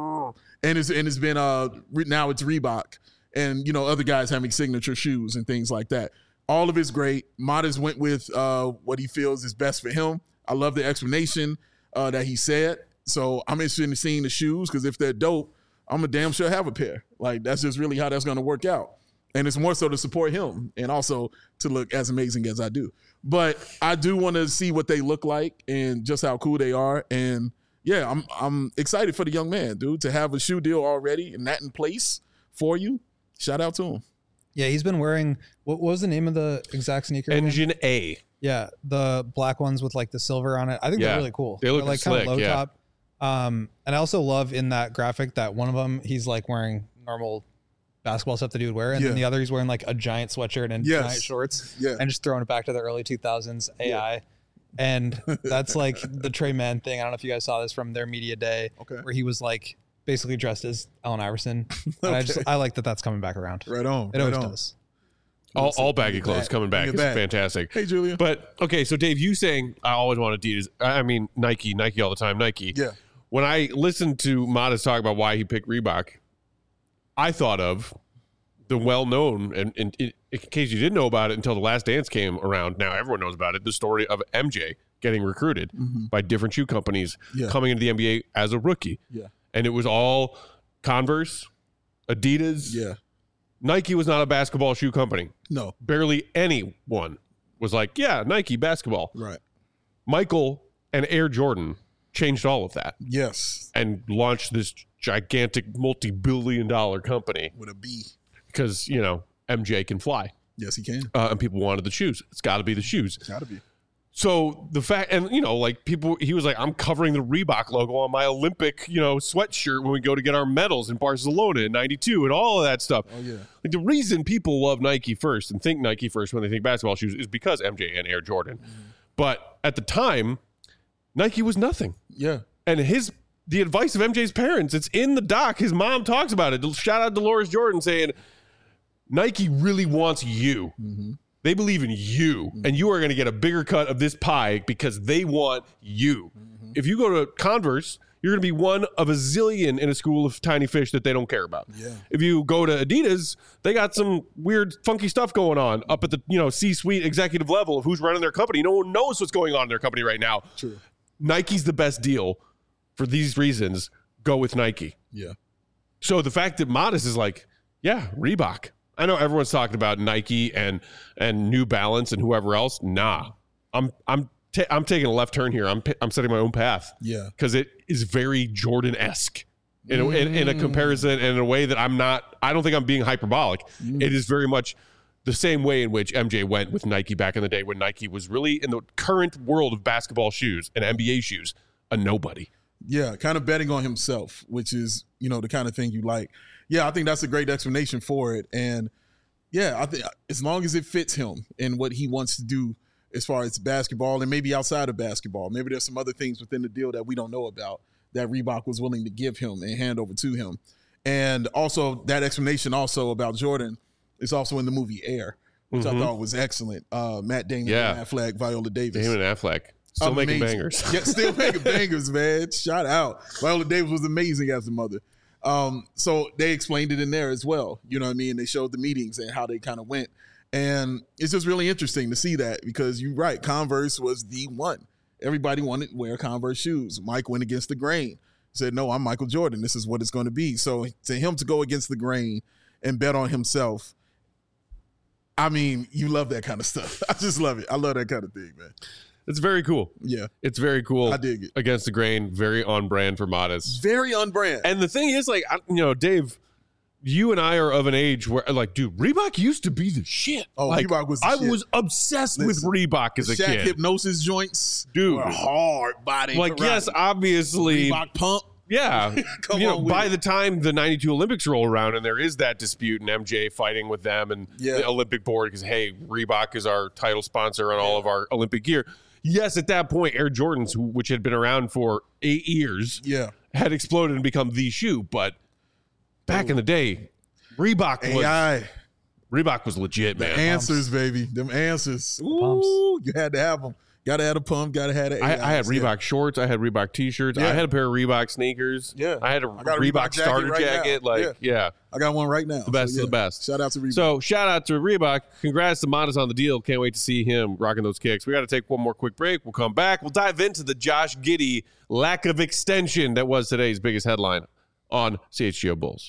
and it's and it's been uh re- now it's Reebok, and you know other guys having signature shoes and things like that. All of it's great. Modest went with uh what he feels is best for him. I love the explanation uh, that he said. So I'm interested in seeing the shoes because if they're dope, I'm a damn sure have a pair. Like that's just really how that's going to work out. And it's more so to support him and also to look as amazing as I do. But I do want to see what they look like and just how cool they are. And yeah, I'm I'm excited for the young man, dude, to have a shoe deal already and that in place for you. Shout out to him. Yeah, he's been wearing, what, what was the name of the exact sneaker? again? Engine A. Yeah, the black ones with like the silver on it. I think Yeah. they're really cool. They look they're like slick, kind of low yeah. top. Um, and I also love in that graphic that one of them he's like wearing normal basketball stuff that he would wear, and Yeah. then the other he's wearing like a giant sweatshirt and Yes. giant shorts, Yeah. and just throwing it back to the early two thousands A I. And that's like the Trey Mann thing. I don't know if you guys saw this from their media day, Okay. where he was like basically dressed as Allen Iverson. And I just Okay. I like that that's coming back around. Right on. It right always on. does. All, all Bring baggy it clothes back. coming back Bring it is back. fantastic. Hey, Julia. But okay, so Dave, you saying I always want Adidas. I mean Nike, Nike all the time, Nike. Yeah. When I listened to Modest talk about why he picked Reebok, I thought of the well-known, and, and in, in case you didn't know about it until The Last Dance came around, now everyone knows about it, the story of M J getting recruited Mhm. by different shoe companies Yeah. coming into the N B A as a rookie. Yeah. And it was all Converse, Adidas. Yeah. Nike was not a basketball shoe company. No. Barely anyone was like, yeah, Nike basketball. Right. Michael and Air Jordan changed all of that Yes. and launched this gigantic multi-billion dollar company With a B. because, you know, M J can fly Yes, he can. uh, and people wanted the shoes. It's got to be the shoes. Gotta be. So the fact, and you know, like people, he was like, I'm covering the Reebok logo on my Olympic, you know, sweatshirt when we go to get our medals in Barcelona in ninety-two and all of that stuff. Oh, yeah. Like the reason people love Nike first and think Nike first when they think basketball shoes is because M J and Air Jordan. Mm-hmm. But at the time, Nike was nothing. Yeah. And his the advice of M J's parents, it's in the doc. His mom talks about it. Shout out Dolores Jordan saying, Nike really wants you. Mm-hmm. They believe in you, and you are going to get a bigger cut of this pie because they want you. Mm-hmm. If you go to Converse, you're going to be one of a zillion in a school of tiny fish that they don't care about. Yeah. If you go to Adidas, they got some weird, funky stuff going on up at the you know C-suite executive level of who's running their company. No one knows what's going on in their company right now. True. Nike's the best deal for these reasons. Go with Nike. Yeah. So the fact that Modest is like, yeah, Reebok. I know everyone's talking about Nike and and New Balance and whoever else. Nah, I'm I'm ta- I'm taking a left turn here. I'm p- I'm setting my own path. Yeah. because it is very Jordan-esque in a, in, in a comparison and in a way that I'm not. I don't think I'm being hyperbolic. It is very much the same way in which M J went with Nike back in the day when Nike was really in the current world of basketball shoes and N B A shoes a nobody. Yeah, kind of betting on himself, which is, you know, the kind of thing you like. Yeah, I think that's a great explanation for it. And yeah, I think as long as it fits him and what he wants to do as far as basketball and maybe outside of basketball, maybe there's some other things within the deal that we don't know about that Reebok was willing to give him and hand over to him. And also that explanation also about Jordan is also in the movie Air, which Mhm. I thought was excellent. Uh, Matt Damon, Yeah. Ben Affleck, Viola Davis. Him and Affleck still making Amazing. bangers. Yeah, still making bangers, man. Shout out. Viola Davis was amazing as a mother. Um, so they explained it in there as well. You know what I mean? They showed the meetings and how they kind of went. And it's just really interesting to see that because you're right. Converse was the one. Everybody wanted to wear Converse shoes. Mike went against the grain. He said, no, I'm Michael Jordan. This is what it's going to be. So to him to go against the grain and bet on himself, I mean, you love that kind of stuff. I just love it. I love that kind of thing, man. It's very cool. Yeah, It's very cool. I dig it. Against the grain, very on brand for Modest. Very on brand. And the thing is, like, I, you know, Dave, you and I are of an age where, like, dude, Reebok used to be the shit. Oh, like, Reebok was the I shit. was obsessed Listen, with Reebok as a Shaq kid. hypnosis joints, Dude. were hard body. Like, yes, karate. obviously, Reebok pump. yeah. Come you know, on with by it. the time the ninety-two Olympics roll around and there is that dispute and M J fighting with them and Yeah. the Olympic board because, hey, Reebok is our title sponsor on all of our Olympic gear. Yes, at that point, Air Jordans, who, which had been around for eight years, Yeah, had exploded and become the shoe. But back in the day, Reebok was A I Reebok was legit, the man. answers, baby. Them answers. pumps. Ooh, you had to have them. Got to have a pump. Got to have the I, A Is. I had Yeah. Reebok shorts. I had Reebok t-shirts. Yeah. I had a pair of Reebok sneakers. Yeah. I had a, I got a Reebok, Reebok jacket starter right now. jacket. Like, Yeah. yeah. I got one right now. The best So, of yeah. the best. Shout out to Reebok. So shout out to Reebok. Congrats to Modest on the deal. Can't wait to see him rocking those kicks. We got to take one more quick break. We'll come back. We'll dive into the Josh Giddey lack of extension that was today's biggest headline on C H G O Bulls.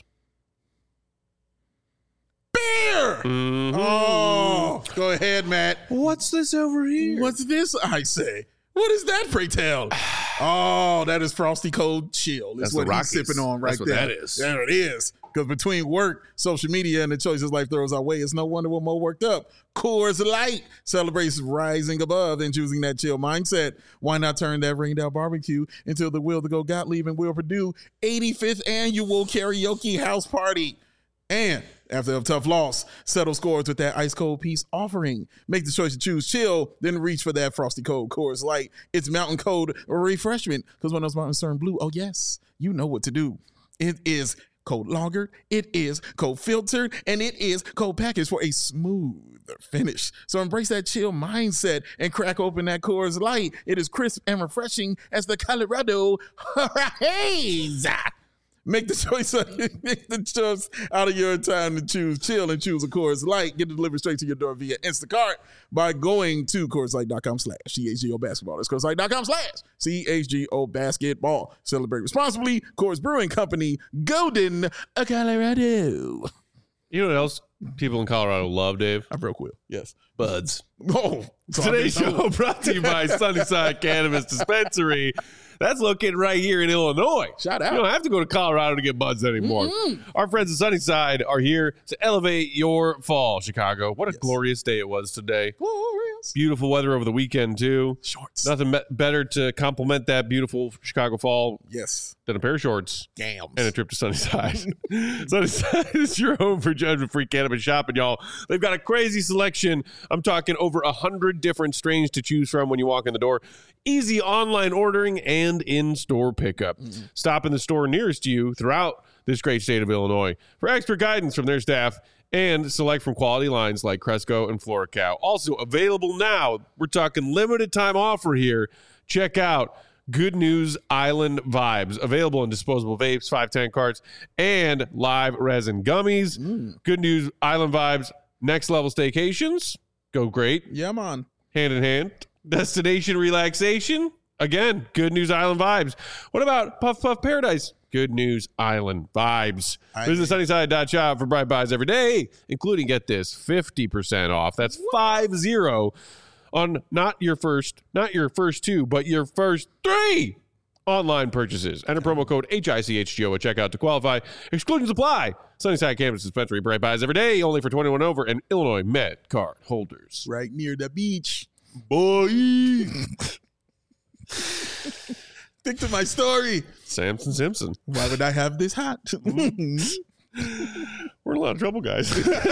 beer. Mhm. Oh, go ahead, Matt. What's this over here? What's this? I say. What is that, pray tell? Oh, that is Frosty Cold Chill. That's That's what the he's Rockies. sipping on right That's what there. that is. There it is. Because between work, social media, and the choices life throws our way, it's no wonder we're more worked up. Coors Light celebrates rising above and choosing that chill mindset. Why not turn that Ringdale barbecue into the Will to Go Gottlieb and Will Purdue eighty-fifth annual karaoke house party? And after a tough loss, settle scores with that ice cold peace offering. Make the choice to choose chill, then reach for that frosty cold Coors Light. It's mountain cold refreshment, because when those mountains turn blue, oh yes, you know what to do. It is cold lagered, it is cold filtered, and it is cold packaged for a smoother finish. So embrace that chill mindset and crack open that Coors Light. It is crisp and refreshing as the Colorado Haze. Make the choice, make the choice out of your time to choose chill and choose a Coors Light. Get it delivered straight to your door via Instacart by going to CoorsLight.com slash C H G O basketball. That's CoorsLight.com slash C H G O basketball. Celebrate responsibly. Coors Brewing Company, Golden, Colorado. You know what else people in Colorado love, Dave? I broke Will. Yes. Buds. Oh. Today's show brought to you by Sunnyside Cannabis Dispensary. That's located right here in Illinois. Shout out. You don't have to go to Colorado to get buds anymore. Mm-hmm. Our friends at Sunnyside are here to elevate your fall, Chicago. What a yes. glorious day it was today. Glorious. Beautiful weather over the weekend, too. Shorts. Nothing be- better to complement that beautiful Chicago fall yes. than a pair of shorts. Gams. And a trip to Sunnyside. Sunnyside is your home for judgment-free cannabis shopping, y'all. They've got a crazy selection. I'm talking over one hundred different strains to choose from when you walk in the door. Easy online ordering and in-store pickup. Mm-hmm. Stop in the store nearest you throughout this great state of Illinois for expert guidance from their staff and select from quality lines like Cresco and FloraCal. Also available now, we're talking limited time offer here. Check out Good News Island Vibes. Available in disposable vapes, five ten carts, and live resin gummies. Mm. Good News Island Vibes. Next level staycations. Go great. Yeah, man. Hand in hand. Destination relaxation. Again, Good News Island Vibes. What about Puff Puff Paradise? Good News Island Vibes. I Visit sunnyside dot shop for bright buys every day, including, get this, fifty percent off. That's five zero on not your first, not your first two, but your first three online purchases. Enter promo code H I C H G O at checkout to qualify. Exclusions apply. Sunnyside Cannabis Dispensary. Bright buys every day, only for twenty-one over and Illinois Med card holders. Right near the beach. Boy. Stick to my story. Samson Simpson. Why would I have this hat? We're in a lot of trouble, guys.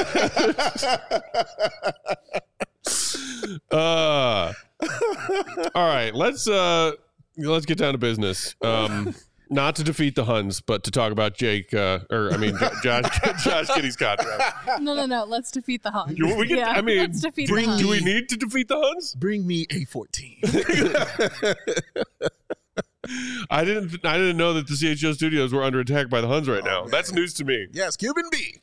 uh, all right, let's uh, let's get down to business. Um, not to defeat the Huns, but to talk about Jake, uh, or I mean, Josh, Josh Giddey's contract. No, no, no. Let's defeat the Huns. You, we get, yeah, I mean, let's defeat bring, the Huns. Do we need to defeat the Huns? Bring me a fourteen. I didn't. I didn't know that the C H O studios were under attack by the Huns right oh, now. Man. That's news to me. Yes, Cuban B.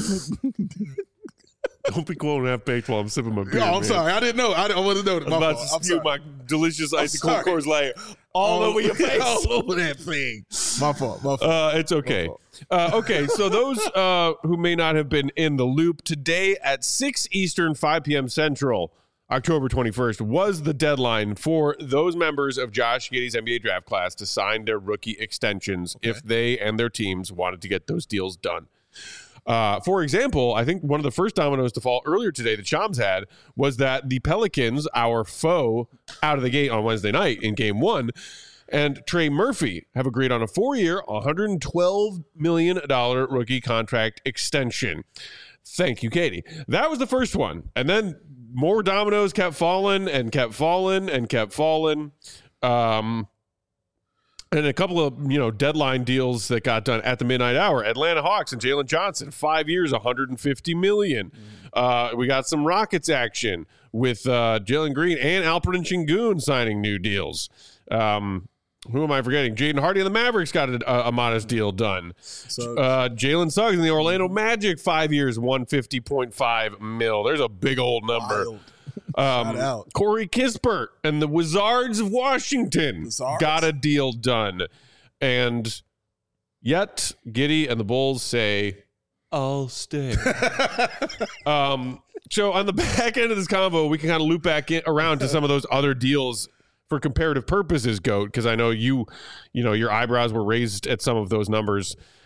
Don't be cold and half baked while I'm sipping my beer. No, I'm man. sorry. I didn't know. I, I wasn't know. I'm about to spew my delicious icy cold Coors Light all oh, over your face, all over that thing. My fault. My fault. Uh, it's okay. Uh, okay, so those uh, who may not have been in the loop, today at six Eastern, five p.m. Central, October twenty-first, was the deadline for those members of Josh Giddey's N B A draft class to sign their rookie extensions okay. if they and their teams wanted to get those deals done. Uh, for example, I think one of the first dominoes to fall earlier today that Shams had was that the Pelicans, our foe out of the gate on Wednesday night in game one, and Trey Murphy have agreed on a four-year, one hundred twelve million dollars rookie contract extension. Thank you, Katie. That was the first one. And then more dominoes kept falling and kept falling and kept falling. Um, and a couple of, you know, deadline deals that got done at the midnight hour. Atlanta Hawks and Jalen Johnson, five years, one hundred fifty million dollars. Uh, we got some Rockets action with uh, Jalen Green and Alperen Sengun signing new deals. Um, who am I forgetting? Jaden Hardy and the Mavericks got a, a modest deal done. So, uh, Jalen Suggs and the Orlando Magic, five years, one hundred fifty point five mil. There's a big old number. Wild. Um, Corey Kispert and the Wizards of Washington Wizards. got a deal done. And yet, Giddey and the Bulls say, I'll stay. um, so on the back end of this convo, we can kind of loop back in, around to some of those other deals for comparative purposes, Goat, because I know you, you know, your eyebrows were raised at some of those numbers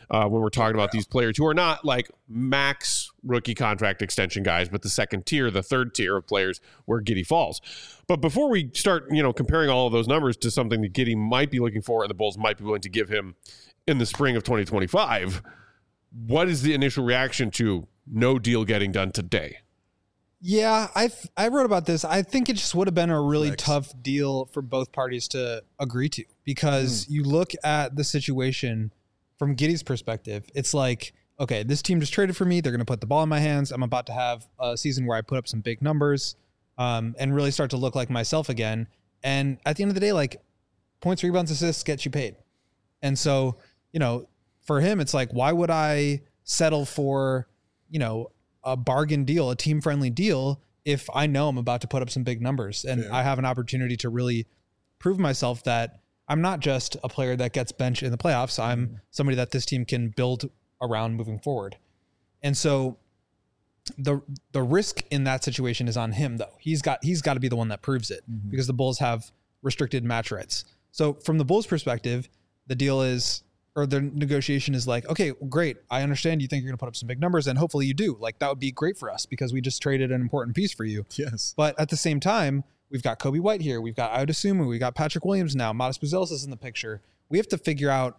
uh, when we're talking about these players who are not like max rookie contract extension guys, but the second tier, the third tier of players where Giddey falls. But before we start, you know, comparing all of those numbers to something that Giddey might be looking for and the Bulls might be willing to give him in the spring of twenty twenty-five, what is the initial reaction to no deal getting done today? Yeah, I I wrote about this. I think it just would have been a really Flex. tough deal for both parties to agree to, because mm. you look at the situation from Giddey's perspective. It's like, okay, this team just traded for me. They're going to put the ball in my hands. I'm about to have a season where I put up some big numbers um, and really start to look like myself again. And at the end of the day, like, points, rebounds, assists gets you paid. And so, you know, for him, it's like, why would I settle for, you know, a bargain deal, a team friendly deal, if I know I'm about to put up some big numbers and yeah. I have an opportunity to really prove myself that I'm not just a player that gets benched in the playoffs. I'm mm. somebody that this team can build around moving forward. And so the the risk in that situation is on him, though. He's got he's got to be the one that proves it mm-hmm. because the Bulls have restricted match rights. So from the Bulls' perspective, the deal is, or the negotiation is like, okay, great. I understand you think you're going to put up some big numbers, and hopefully you do. Like, that would be great for us because we just traded an important piece for you. Yes. But at the same time, we've got Kobe White here. We've got Ayo Dosunmu. We've got Patrick Williams now. Modest Buzelis is in the picture. We have to figure out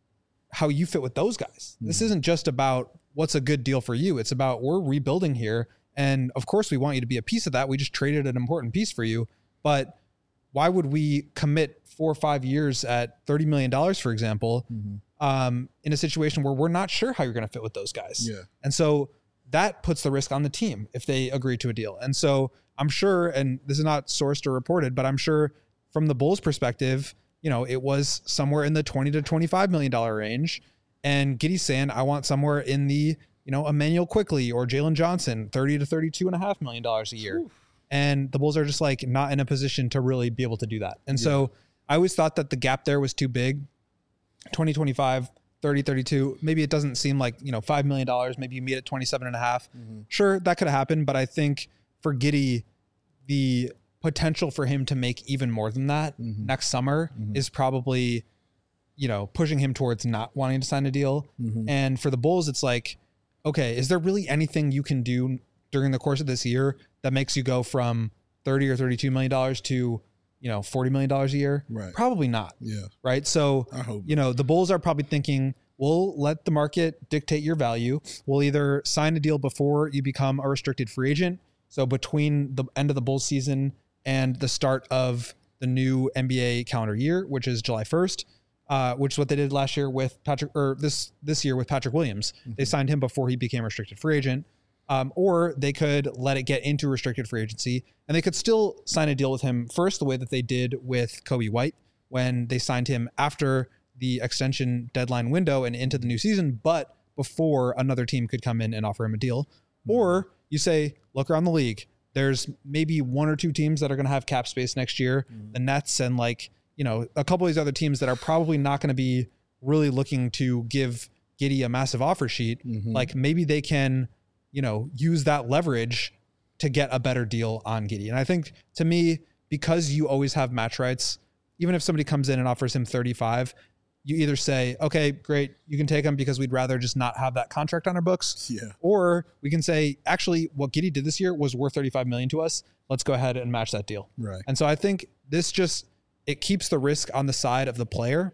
how you fit with those guys. Mm-hmm. This isn't just about what's a good deal for you. It's about, we're rebuilding here. And of course we want you to be a piece of that. We just traded an important piece for you. But why would we commit four or five years at thirty million dollars, for example, mm-hmm. um, in a situation where we're not sure how you're going to fit with those guys? Yeah. And so that puts the risk on the team if they agree to a deal. And so I'm sure, and this is not sourced or reported, but I'm sure from the Bulls' perspective, you know, it was somewhere in the twenty to twenty-five million dollars range. And Giddey's saying, I want somewhere in the, you know, Emmanuel Quickley or Jalen Johnson, thirty to thirty-two and a half million dollars a year. Oof. And the Bulls are just like not in a position to really be able to do that. And yeah. so I always thought that the gap there was too big. twenty, twenty-five, thirty, thirty-two. Maybe it doesn't seem like, you know, five million dollars. Maybe you meet at twenty-seven and a half. Mm-hmm. Sure, that could have happened. But I think for Giddey, the potential for him to make even more than that mm-hmm. next summer mm-hmm. is probably, you know, pushing him towards not wanting to sign a deal. Mm-hmm. And for the Bulls, it's like, okay, is there really anything you can do during the course of this year that makes you go from thirty or thirty-two million dollars to, you know, forty million dollars a year? Right. Probably not. Yeah. Right. So, I hope you know, the Bulls are probably thinking, we'll let the market dictate your value. We'll either sign a deal before you become a restricted free agent. So between the end of the Bulls season and the start of the new N B A calendar year, which is July first, uh, which is what they did last year with Patrick, or this, this year with Patrick Williams. Mm-hmm. They signed him before he became a restricted free agent. Um, or they could let it get into restricted free agency, and they could still sign a deal with him first, the way that they did with Kobe White when they signed him after the extension deadline window and into the new season, but before another team could come in and offer him a deal. Mm-hmm. Or you say, look around the league. There's maybe one or two teams that are going to have cap space next year, mm-hmm. the Nets and like, you know, a couple of these other teams that are probably not going to be really looking to give Giddey a massive offer sheet. Mm-hmm. Like maybe they can, you know, use that leverage to get a better deal on Giddey. And I think to me, because you always have match rights, even if somebody comes in and offers him thirty-five, you either say, okay, great, you can take him because we'd rather just not have that contract on our books. Yeah. Or we can say, actually, what Giddey did this year was worth thirty-five million dollars to us. Let's go ahead and match that deal. Right. And so I think this just, it keeps the risk on the side of the player.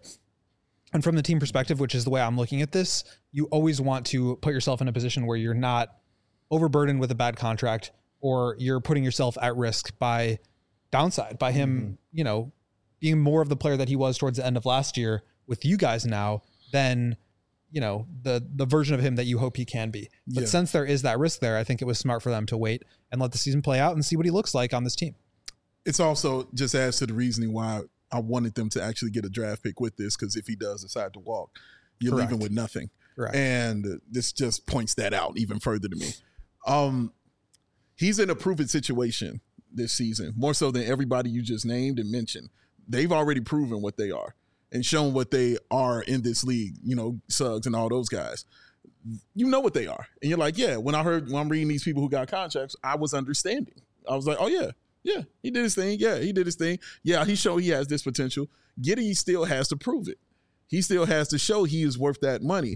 And from the team perspective, which is the way I'm looking at this, you always want to put yourself in a position where you're not overburdened with a bad contract, or you're putting yourself at risk by downside, by him, mm-hmm. you know, being more of the player that he was towards the end of last year with you guys now than, you know, the, the version of him that you hope he can be. But yeah. since there is that risk there, I think it was smart for them to wait and let the season play out and see what he looks like on this team. It's also just adds to the reasoning why I wanted them to actually get a draft pick with this, because if he does decide to walk, you're Correct. leaving with nothing. Correct. And this just points that out even further to me. Um, he's in a proven situation this season, more so than everybody you just named and mentioned. They've already proven what they are and shown what they are in this league, you know, Suggs and all those guys. You know what they are. And you're like, yeah, when I heard, when I'm reading these people who got contracts, I was understanding. I was like, oh, yeah, yeah, he did his thing. Yeah, he did his thing. Yeah, he showed he has this potential. Giddey still has to prove it. He still has to show he is worth that money.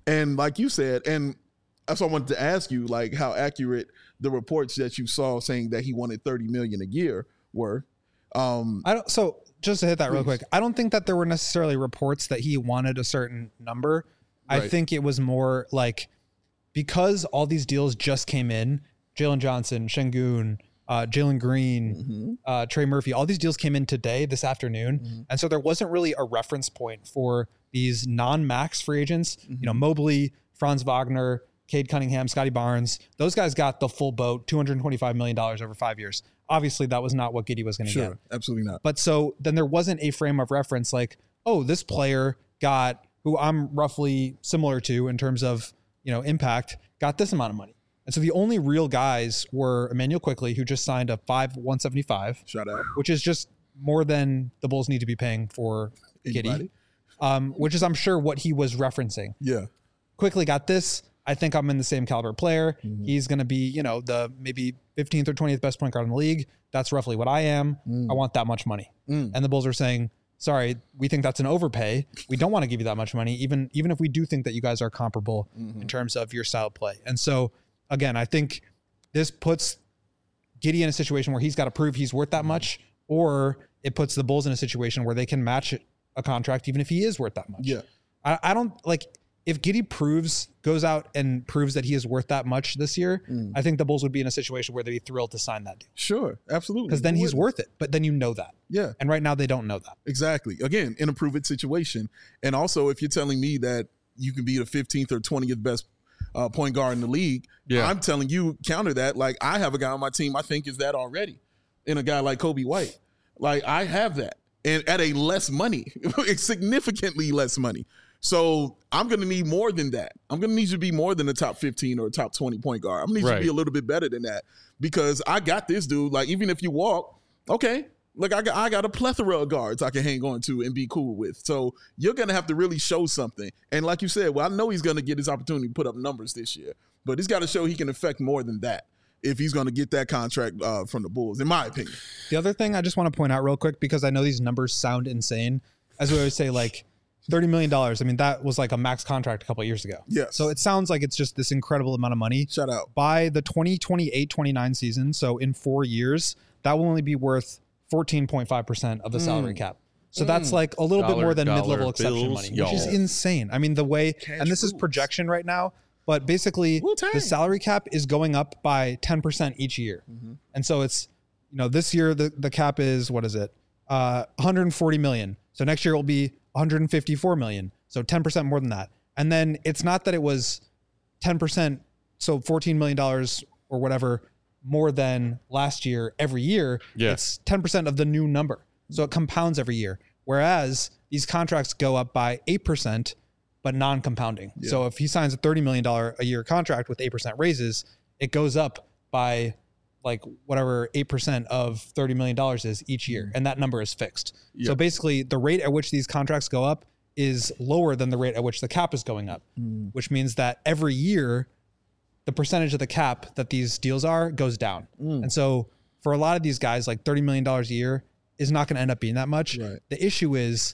And like you said, and that's what I wanted to ask you, like how accurate the reports that you saw saying that he wanted thirty million a year were. Um, I don't. So just to hit that real Please. quick, I don't think that there were necessarily reports that he wanted a certain number. I Right. think it was more like because all these deals just came in, Jalen Johnson, Şengün, uh, Jalen Green, mm-hmm. uh, Trey Murphy, all these deals came in today, this afternoon. Mm-hmm. And so there wasn't really a reference point for these non-max free agents, Mm-hmm. you know, Mobley, Franz Wagner, Cade Cunningham, Scotty Barnes. Those guys got the full boat, two hundred twenty-five million dollars over five years. Obviously, that was not what Giddey was going to Sure, get. absolutely not. But so then there wasn't a frame of reference like, oh, this player got, who I'm roughly similar to in terms of, you know, impact, got this amount of money. And so the only real guys were Emmanuel Quickley, who just signed a five one seventy-five, Shout out. which is just more than the Bulls need to be paying for Giddey, Anybody? um, which is, I'm sure, what he was referencing. Yeah. Quickly got this. I think I'm in the same caliber player. Mm-hmm. He's going to be, you know, the maybe fifteenth or twentieth best point guard in the league. That's roughly what I am. Mm. I want that much money. Mm. And the Bulls are saying, sorry, we think that's an overpay. We don't want to give you that much money, even, even if we do think that you guys are comparable Mm-hmm. in terms of your style of play. And so, again, I think this puts Giddey in a situation where he's got to prove he's worth that much, or it puts the Bulls in a situation where they can match a contract even if he is worth that much. Yeah. I, I don't like if Giddey proves goes out and proves that he is worth that much this year. Mm. I think the Bulls would be in a situation where they'd be thrilled to sign that deal Sure, absolutely. because then Who he's wouldn't? worth it. But then you know that, Yeah, and right now they don't know that. exactly. Again, in a prove it situation. And also, if you're telling me that you can be the fifteenth or twentieth best uh, point guard in the league, Yeah. I'm telling you, counter that. Like, I have a guy on my team I think is that already, in a guy like Kobe White. Like, I have that, and at a less money, significantly less money. So I'm going to need more than that. I'm going to need you to be more than a top fifteen or a top twenty point guard. I'm going to need you Right. to be a little bit better than that, because I got this dude. Like, even if you walk, okay, look, I got, I got a plethora of guards I can hang on to and be cool with. So you're going to have to really show something. And like you said, well, I know he's going to get his opportunity to put up numbers this year, but he's got to show he can affect more than that if he's going to get that contract uh, from the Bulls, in my opinion. The other thing I just want to point out real quick, because I know these numbers sound insane, as we always say, like thirty million dollars. I mean, that was like a max contract a couple of years ago. Yes. So it sounds like it's just this incredible amount of money. Shout out. By the twenty twenty-eight twenty-nine season, so in four years, that will only be worth fourteen point five percent of the salary cap. So that's like a little bit Dollar, more than dollar mid-level exception bills, money, which is y'all. insane. I mean, the way, Cash and this is rules. projection right now, but basically Wu-Tang. the salary cap is going up by ten percent each year. And so it's, you know, this year the, the cap is, what is it? Uh, one hundred forty million. So next year it will be one hundred fifty-four million. So ten percent more than that. And then it's not that it was ten percent, so fourteen million dollars or whatever more than last year every year. Yeah. It's ten percent of the new number. So it compounds every year. Whereas these contracts go up by eight percent, but non-compounding. So if he signs a thirty million dollars a year contract with eight percent raises, it goes up by like whatever eight percent of thirty million dollars is each year. And that number is fixed. Yeah. So basically the rate at which these contracts go up is lower than the rate at which the cap is going up, which means that every year the percentage of the cap that these deals are goes down. And so for a lot of these guys, like thirty million dollars a year is not going to end up being that much. Right. The issue is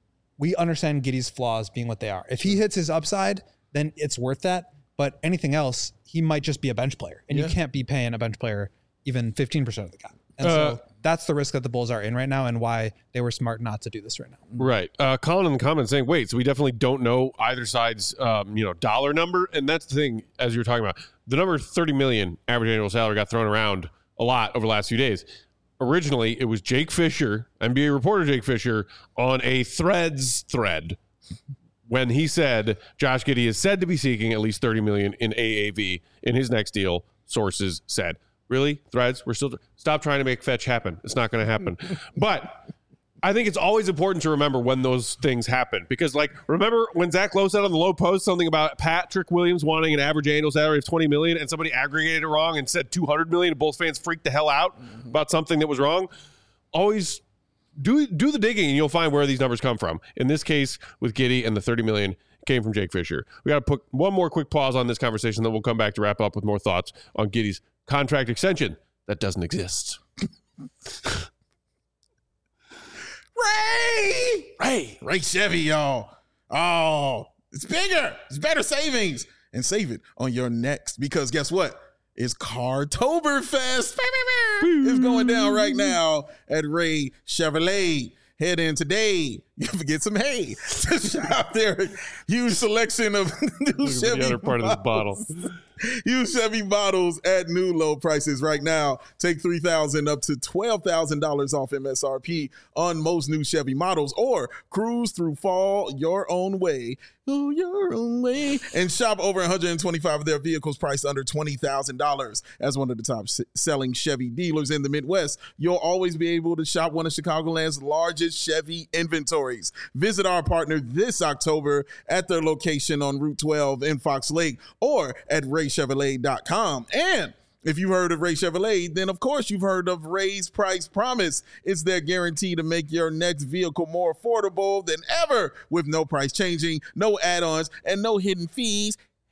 we understand Giddey's flaws being what they are. If he hits his upside, then it's worth that. But anything else, he might just be a bench player. And Yeah. you can't be paying a bench player even fifteen percent of the cap. And Uh, so that's the risk that the Bulls are in right now and why they were smart not to do this right now. Right. Uh, Colin in the comments saying, wait, so we definitely don't know either side's, um, you know, dollar number. And that's the thing, as you were talking about, the number thirty million average annual salary got thrown around a lot over the last few days. Originally, it was Jake Fisher, N B A reporter Jake Fisher, on a Threads thread when he said Josh Giddey is said to be seeking at least thirty million in A A V in his next deal. Sources said, really? Threads? We're still stop trying to make fetch happen. It's not going to happen. But I think it's always important to remember when those things happen, because, like, remember when Zach Lowe said on the Low Post something about Patrick Williams wanting an average annual salary of twenty million and somebody aggregated it wrong and said two hundred million and Bulls fans freaked the hell out about something that was wrong? Always do do the digging and you'll find where these numbers come from. In this case with Giddey and the thirty million came from Jake Fisher. We got to put one more quick pause on this conversation, then we'll come back to wrap up with more thoughts on Giddey's contract extension that doesn't exist. Ray! Ray. Ray Chevy, y'all. Oh, It's bigger. It's better savings. And save it on your next, because guess what? It's Cartoberfest. It's going down right now at Ray Chevrolet. Head in today. You can get some hay to shop there. Huge selection of new Look Chevy at the other part models. of this bottle. Huge Chevy models at new low prices right now. Take three thousand dollars up to twelve thousand dollars off M S R P on most new Chevy models, or cruise through fall your own way. Go your own way. And shop over one hundred twenty-five of their vehicles priced under twenty thousand dollars. As one of the top s- selling Chevy dealers in the Midwest, you'll always be able to shop one of Chicagoland's largest Chevy inventories. Visit our partner this October at their location on Route twelve in Fox Lake or at ray chevrolet dot com. And if you've heard of Ray Chevrolet, then of course you've heard of Ray's Price Promise. It's their guarantee to make your next vehicle more affordable than ever, with no price changing, no add-ons, and no hidden fees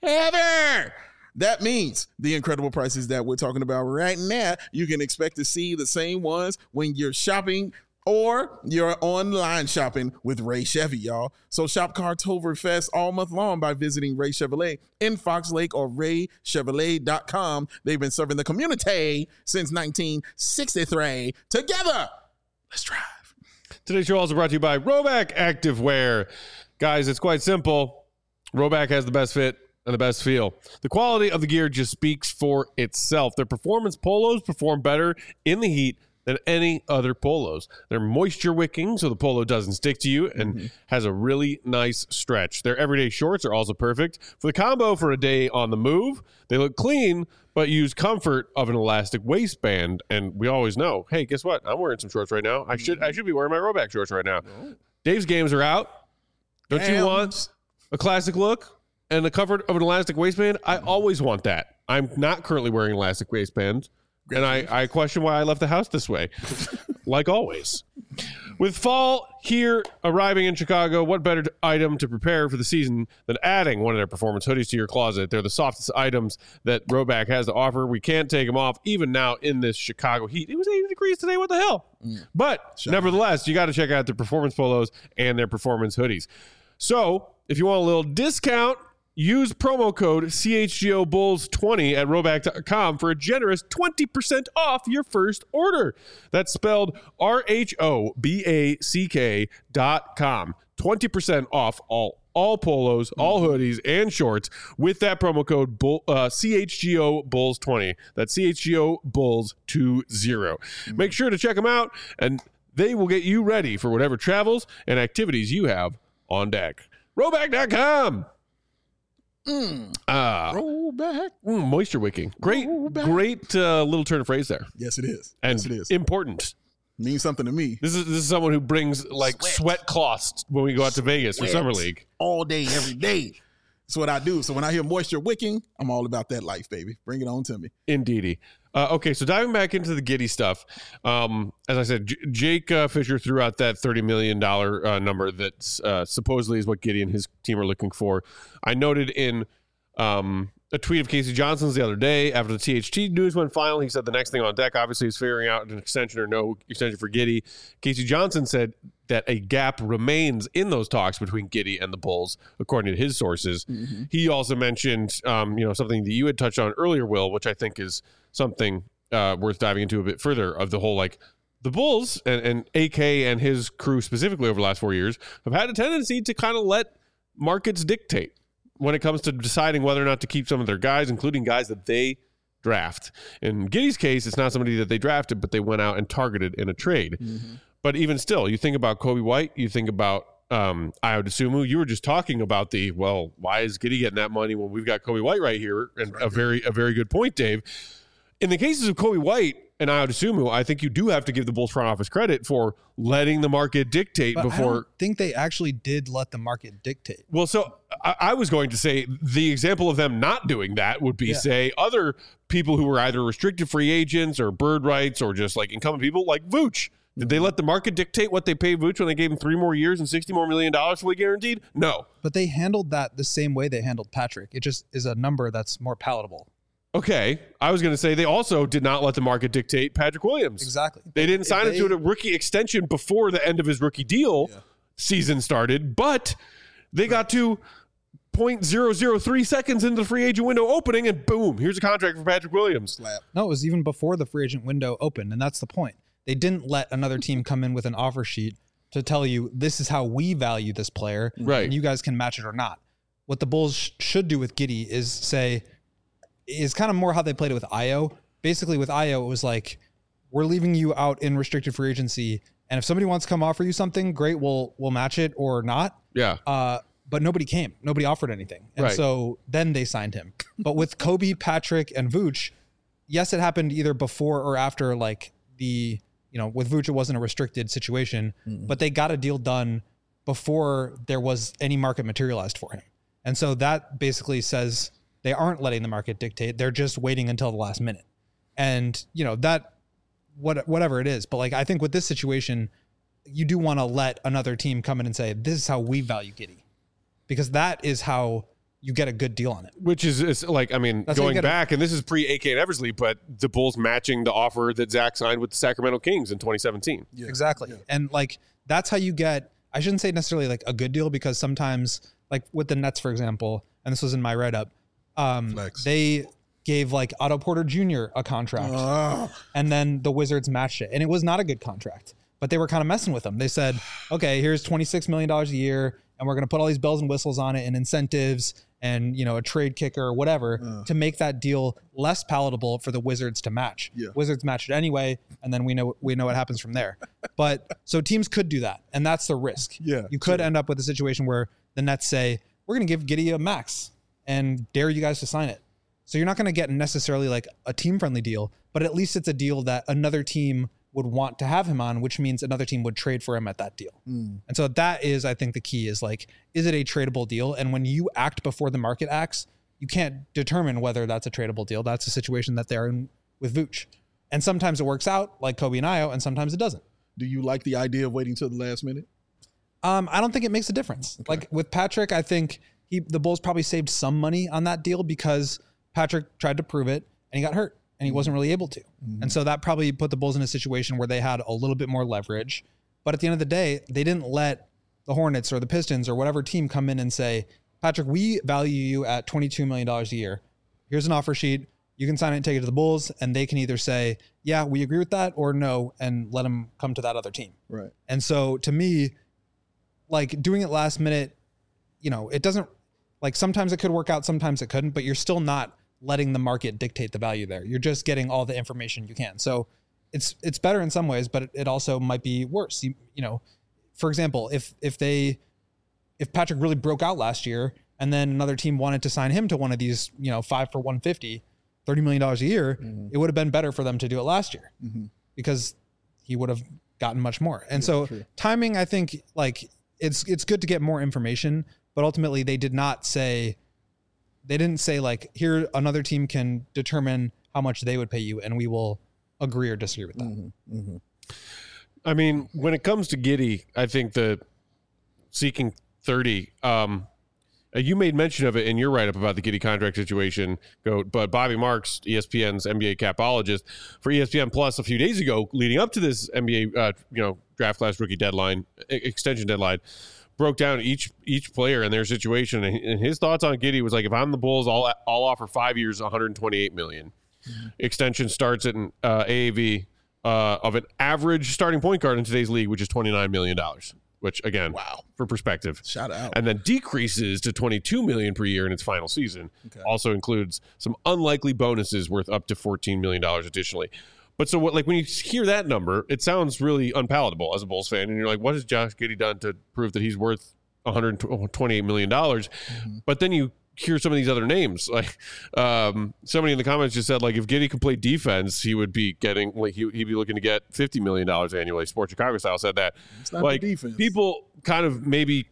ever. That means the incredible prices that we're talking about right now, you can expect to see the same ones when you're shopping or you're online shopping with Ray Chevy, y'all. So shop Cartoberfest all month long by visiting Ray Chevrolet in Fox Lake or ray chevrolet dot com. They've been serving the community since nineteen sixty-three. Together, let's drive. Today's show also brought to you by Roback Activewear. Guys, it's quite simple. Roback has the best fit and the best feel. The quality of the gear just speaks for itself. Their performance polos perform better in the heat than any other polos. They're moisture wicking, so the polo doesn't stick to you and mm-hmm. has a really nice stretch. Their everyday shorts are also perfect for the combo for a day on the move. They look clean, but use comfort of an elastic waistband. And we always know, hey, guess what? I'm wearing some shorts right now. I should I should be wearing my Roback shorts right now. Oh. Dave's games are out. Don't Damn. you want a classic look and the comfort of an elastic waistband? I always want that. I'm not currently wearing elastic waistbands. And I, I question why I left the house this way, like always. With fall here arriving in Chicago, what better item to prepare for the season than adding one of their performance hoodies to your closet? They're the softest items that Roback has to offer. We can't take them off, even now in this Chicago heat. It was eighty degrees today. What the hell? Mm. But Shut nevertheless, up. you got to check out their performance polos and their performance hoodies. So if you want a little discount, use promo code C H G O Bulls twenty at roback dot com for a generous twenty percent off your first order. That's spelled R H O B A C K dot com. twenty percent off all all polos, all hoodies, and shorts with that promo code Bull, uh, C H G O Bulls twenty. That's C H G O Bulls twenty. Make sure to check them out, and they will get you ready for whatever travels and activities you have on deck. roback dot com. Mm. Uh, Roll back. Mm, moisture wicking. Great, great uh, little turn of phrase there. Yes, it is. And yes, it is. Important. Means something to me. This is this is someone who brings like sweat, sweat cloths when we go out to Vegas for Summer League. All day, every day. That's what I do. So when I hear moisture wicking, I'm all about that life, baby. Bring it on to me. Indeedy. Uh, okay, so diving back into the Giddey stuff, um, as I said, J- Jake uh, Fisher threw out that thirty million dollars uh, number that uh, supposedly is what Giddey and his team are looking for. I noted in um, a tweet of Casey Johnson's the other day after the T H T news went final, he said the next thing on deck obviously is figuring out an extension or no extension for Giddey. Casey Johnson said that a gap remains in those talks between Giddey and the Bulls, according to his sources. Mm-hmm. He also mentioned, um, you know, something that you had touched on earlier, Will, which I think is something uh, worth diving into a bit further, of the whole, like, the Bulls and, and A K and his crew specifically over the last four years have had a tendency to kind of let markets dictate when it comes to deciding whether or not to keep some of their guys, including guys that they draft. In Giddey's case, it's not somebody that they drafted, but they went out and targeted in a trade. Mm-hmm. But even still, you think about Kobe White, you think about um, Ayo Dosunmu. You were just talking about the, well, why is Giddey getting that money when we've got Kobe White right here? And right. a very a very good point, Dave. In the cases of Kobe White and Ayo Dosunmu, I think you do have to give the Bulls front office credit for letting the market dictate but before. I don't think they actually did let the market dictate. Well, so I, I was going to say the example of them not doing that would be, yeah. say, other people who were either restricted free agents or bird rights or just like incumbent people like Vooch. Did they let the market dictate what they paid Vooch when they gave him three more years and sixty more million dollars fully guaranteed? No. But they handled that the same way they handled Patrick. It just is a number that's more palatable. Okay. I was going to say they also did not let the market dictate Patrick Williams. Exactly. They didn't sign him to a rookie extension before the end of his rookie deal yeah. season started, but they right. got to point zero zero three seconds into the free agent window opening, and boom, here's a contract for Patrick Williams. Slap. No, it was even before the free agent window opened, and that's the point. They didn't let another team come in with an offer sheet to tell you this is how we value this player, Right. and you guys can match it or not. What the Bulls sh- should do with Giddey is say, is kind of more how they played it with Ayo. Basically, with Ayo, it was like, we're leaving you out in restricted free agency, and if somebody wants to come offer you something, great, we'll we'll match it or not. Yeah. Uh, but nobody came. Nobody offered anything. And Right. so then they signed him. But with Kobe, Patrick, and Vooch, yes, it happened either before or after, like the, you know, with Vooch, it wasn't a restricted situation, mm-hmm. but they got a deal done before there was any market materialized for him. And so that basically says they aren't letting the market dictate. They're just waiting until the last minute. And, you know, that, what, whatever it is. But like, I think with this situation, you do want to let another team come in and say, this is how we value Giddey, because that is how you get a good deal on it. Which is, is like, I mean, That's how you going get back, and this is pre A K and Eversley, but the Bulls matching the offer that Zach signed with the Sacramento Kings in twenty seventeen. Yeah. Exactly. Yeah. And like, that's how you get, I shouldn't say necessarily like a good deal, because sometimes like with the Nets, for example, and this was in my write-up, um, Flex. they gave like Otto Porter Junior a contract, Oh. and then the Wizards matched it. And it was not a good contract, but they were kind of messing with them. They said, okay, here's twenty-six million dollars a year, and we're going to put all these bells and whistles on it and incentives and, you know, a trade kicker or whatever Uh. to make that deal less palatable for the Wizards to match. Yeah. Wizards matched it anyway, and then we know we know what happens from there. But so teams could do that, and that's the risk. Yeah, You could sure. end up with a situation where the Nets say, we're going to give Giddey a max and dare you guys to sign it. So you're not going to get necessarily like a team-friendly deal, but at least it's a deal that another team would want to have him on, which means another team would trade for him at that deal. Mm. And so that is, I think, the key is like, is it a tradable deal? And when you act before the market acts, you can't determine whether that's a tradable deal. That's a situation that they're in with Vooch. And sometimes it works out like Kobe and Ayo, and sometimes it doesn't. Do you like the idea of waiting till the last minute? Um, I don't think it makes a difference. Okay. Like with Patrick, I think he the Bulls probably saved some money on that deal because Patrick tried to prove it and he got hurt and he wasn't really able to. Mm-hmm. And so that probably put the Bulls in a situation where they had a little bit more leverage. But at the end of the day, they didn't let the Hornets or the Pistons or whatever team come in and say, Patrick, we value you at twenty-two million dollars a year. Here's an offer sheet. You can sign it and take it to the Bulls, and they can either say, yeah, we agree with that, or no, and let them come to that other team. Right. And so to me, like doing it last minute, you know, it doesn't, like sometimes it could work out, sometimes it couldn't, but you're still not letting the market dictate the value there. You're just getting all the information you can. So it's it's better in some ways, but it, it also might be worse. You, you know, for example, if if they if Patrick really broke out last year and then another team wanted to sign him to one of these, you know, five for one fifty, thirty million dollars a year, Mhm. it would have been better for them to do it last year Mm-hmm. because he would have gotten much more. And so true. timing, I think, like it's it's good to get more information, but ultimately they did not say, they didn't say like, here another team can determine how much they would pay you and we will agree or disagree with that. Mm-hmm. Mm-hmm. I mean, when it comes to Giddey, I think the seeking thirty, um, uh, you made mention of it in your write-up about the Giddey contract situation, go, but Bobby Marks, E S P N's N B A capologist for E S P N Plus a few days ago, leading up to this N B A, uh, you know, draft class rookie deadline, e- extension deadline, broke down each each player and their situation, and and his thoughts on Giddey was like, if I'm the Bulls, I'll I'll offer five years, one hundred twenty-eight million dollars. Mm-hmm. Extension starts at an uh, A A V uh, of an average starting point guard in today's league, which is twenty-nine million dollars. Which again, Wow. for perspective, Shout out. and then decreases to twenty-two million dollars per year in its final season. Okay. Also includes some unlikely bonuses worth up to fourteen million dollars additionally. But so what, like when you hear that number, it sounds really unpalatable as a Bulls fan, and you're like, what has Josh Giddey done to prove that he's worth one hundred twenty-eight million dollars? Mm-hmm. But then you hear some of these other names, like um, somebody in the comments just said, like if Giddey could play defense, he would be getting like he, he'd be looking to get fifty million dollars annually. Sports Chicago style said that. It's not Like the defense. people kind of maybe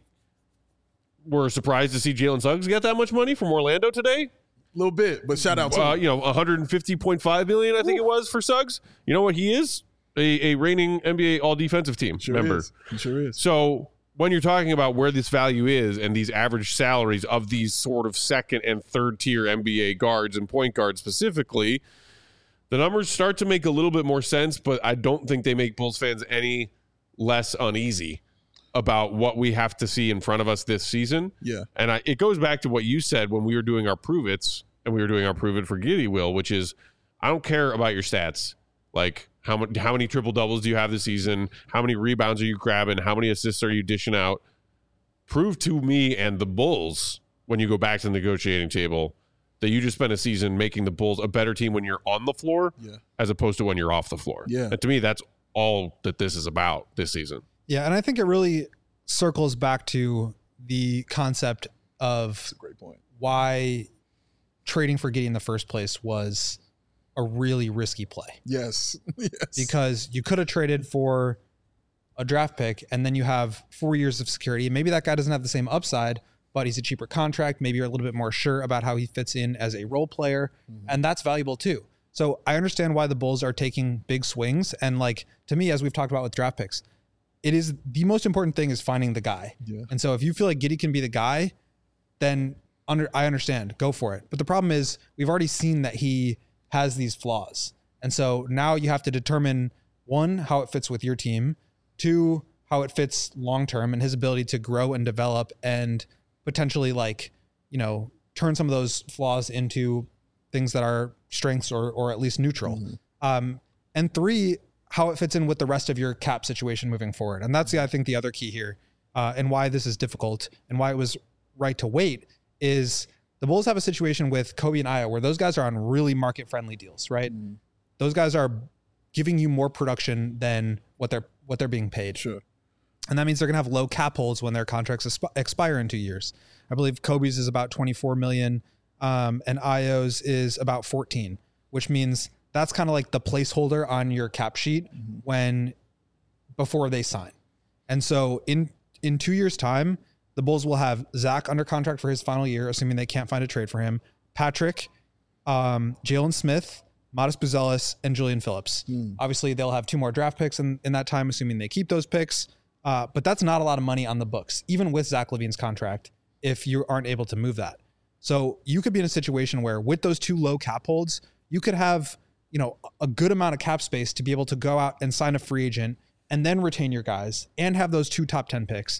were surprised to see Jalen Suggs get that much money from Orlando today. A little bit, but shout out to Uh, him. you know, one hundred fifty point five million, I think it was for Suggs. You know what he is? A, a reigning N B A all defensive team Sure member. is. He sure is. So when you're talking about where this value is and these average salaries of these sort of second and third tier N B A guards and point guards specifically, the numbers start to make a little bit more sense, but I don't think they make Bulls fans any less uneasy about what we have to see in front of us this season. Yeah. And I, it goes back to what you said when we were doing our prove it's and we were doing our prove it for Giddy, Will, which is I don't care about your stats. Like how many, how many triple doubles do you have this season? How many rebounds are you grabbing? How many assists are you dishing out? Prove to me and the Bulls when you go back to the negotiating table that you just spent a season making the Bulls a better team when you're on the floor yeah. as opposed to when you're off the floor. Yeah. And to me, that's all that this is about this season. Yeah, and I think it really circles back to the concept of That's a great point. Why trading for Giddey in the first place was a really risky play. Yes. yes. Because you could have traded for a draft pick and then you have four years of security. Maybe that guy doesn't have the same upside, but he's a cheaper contract. Maybe you're a little bit more sure about how he fits in as a role player. Mm-hmm. And that's valuable too. So I understand why the Bulls are taking big swings. And like, to me, as we've talked about with draft picks, it is the most important thing is finding the guy. Yeah. And so if you feel like Giddey can be the guy, then under, I understand, go for it. But the problem is we've already seen that he has these flaws. And so now you have to determine one, how it fits with your team, two, how it fits long-term and his ability to grow and develop and potentially like, you know, turn some of those flaws into things that are strengths or, or at least neutral. Mm-hmm. Um, and three, how it fits in with the rest of your cap situation moving forward. And that's, I think, the other key here uh, and why this is difficult and why it was right to wait is the Bulls have a situation with Kobe and Ayo where those guys are on really market-friendly deals, right? Mm-hmm. Those guys are giving you more production than what they're what they're being paid. Sure. And that means they're going to have low cap holds when their contracts exp- expire in two years. I believe Kobe's is about twenty-four million um, and Ayo's is about fourteen, which means that's kind of like the placeholder on your cap sheet mm-hmm. when before they sign. And so in in two years' time, the Bulls will have Zach under contract for his final year, assuming they can't find a trade for him. Patrick, um, Jalen Smith, Modest Buzelis, and Julian Phillips. Mm. Obviously, they'll have two more draft picks in, in that time, assuming they keep those picks. Uh, but that's not a lot of money on the books, even with Zach LaVine's contract, if you aren't able to move that. So you could be in a situation where with those two low cap holds, you could have, you know, a good amount of cap space to be able to go out and sign a free agent and then retain your guys and have those two top ten picks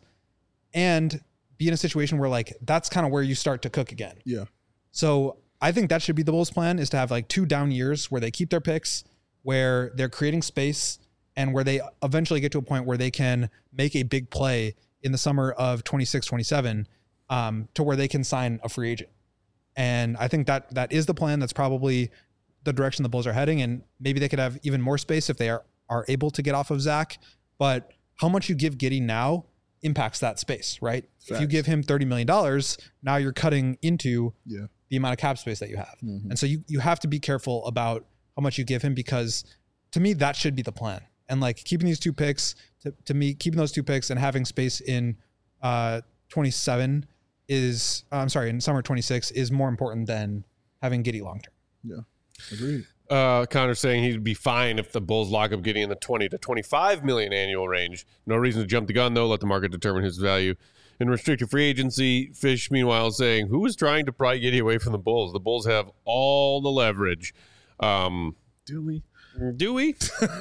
and be in a situation where like, that's kind of where you start to cook again. Yeah. So I think that should be the Bulls' plan, is to have like two down years where they keep their picks, where they're creating space, and where they eventually get to a point where they can make a big play in the summer of twenty-six, twenty-seven um, to where they can sign a free agent. And I think that that is the plan. That's probably the direction the Bulls are heading. And maybe they could have even more space if they are, are able to get off of Zach. But how much you give Giddey now impacts that space, right? Facts. If you give him thirty million dollars, now you're cutting into yeah. the amount of cap space that you have. Mm-hmm. And so you, you have to be careful about how much you give him, because to me, that should be the plan. And like keeping these two picks, to, to me, keeping those two picks and having space in uh, twenty-seven is, uh, I'm sorry, in summer twenty-six is more important than having Giddey long-term. Yeah, agreed. Uh, Connor's saying he'd be fine if the Bulls lock up Giddey in the twenty to twenty-five million annual range. No reason to jump the gun, though. Let the market determine his value. In restricted free agency, Fish, meanwhile, saying, who is trying to pry Giddey away from the Bulls? The Bulls have all the leverage. Um, Do we? Do we?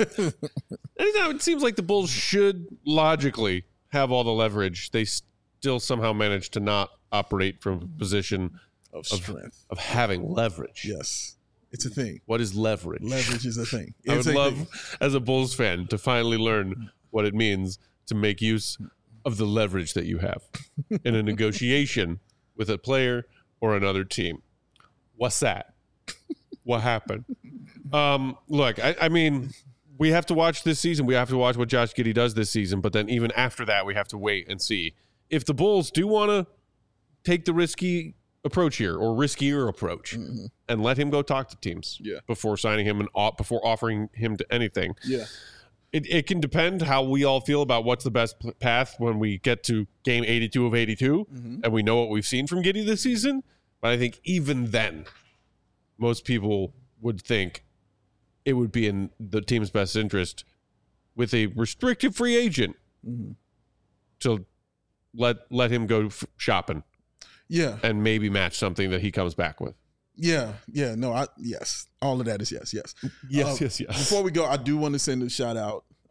It seems like the Bulls should logically have all the leverage. They still somehow manage to not operate from a position of strength, of, of having leverage. Yes. It's a thing. What is leverage? Leverage is a thing. It's I would a love, thing. as a Bulls fan, to finally learn what it means to make use of the leverage that you have in a negotiation with a player or another team. What's that? What happened? Um, look, I, I mean, we have to watch this season. We have to watch what Josh Giddey does this season. But then even after that, we have to wait and see. If the Bulls do want to take the risky approach here, or riskier approach, mm-hmm. and let him go talk to teams yeah. before signing him and op- before offering him to anything. Yeah, it it can depend how we all feel about what's the best p- path when we get to game eighty-two of eighty-two, mm-hmm. and we know what we've seen from Giddey this season. But I think even then, most people would think it would be in the team's best interest with a restricted free agent mm-hmm. to let let him go f- shopping. Yeah. And maybe match something that he comes back with. Yeah. Yeah. No, I, yes. All of that is yes. Yes. Yes, uh, yes, yes. Before we go, I do want to send a shout out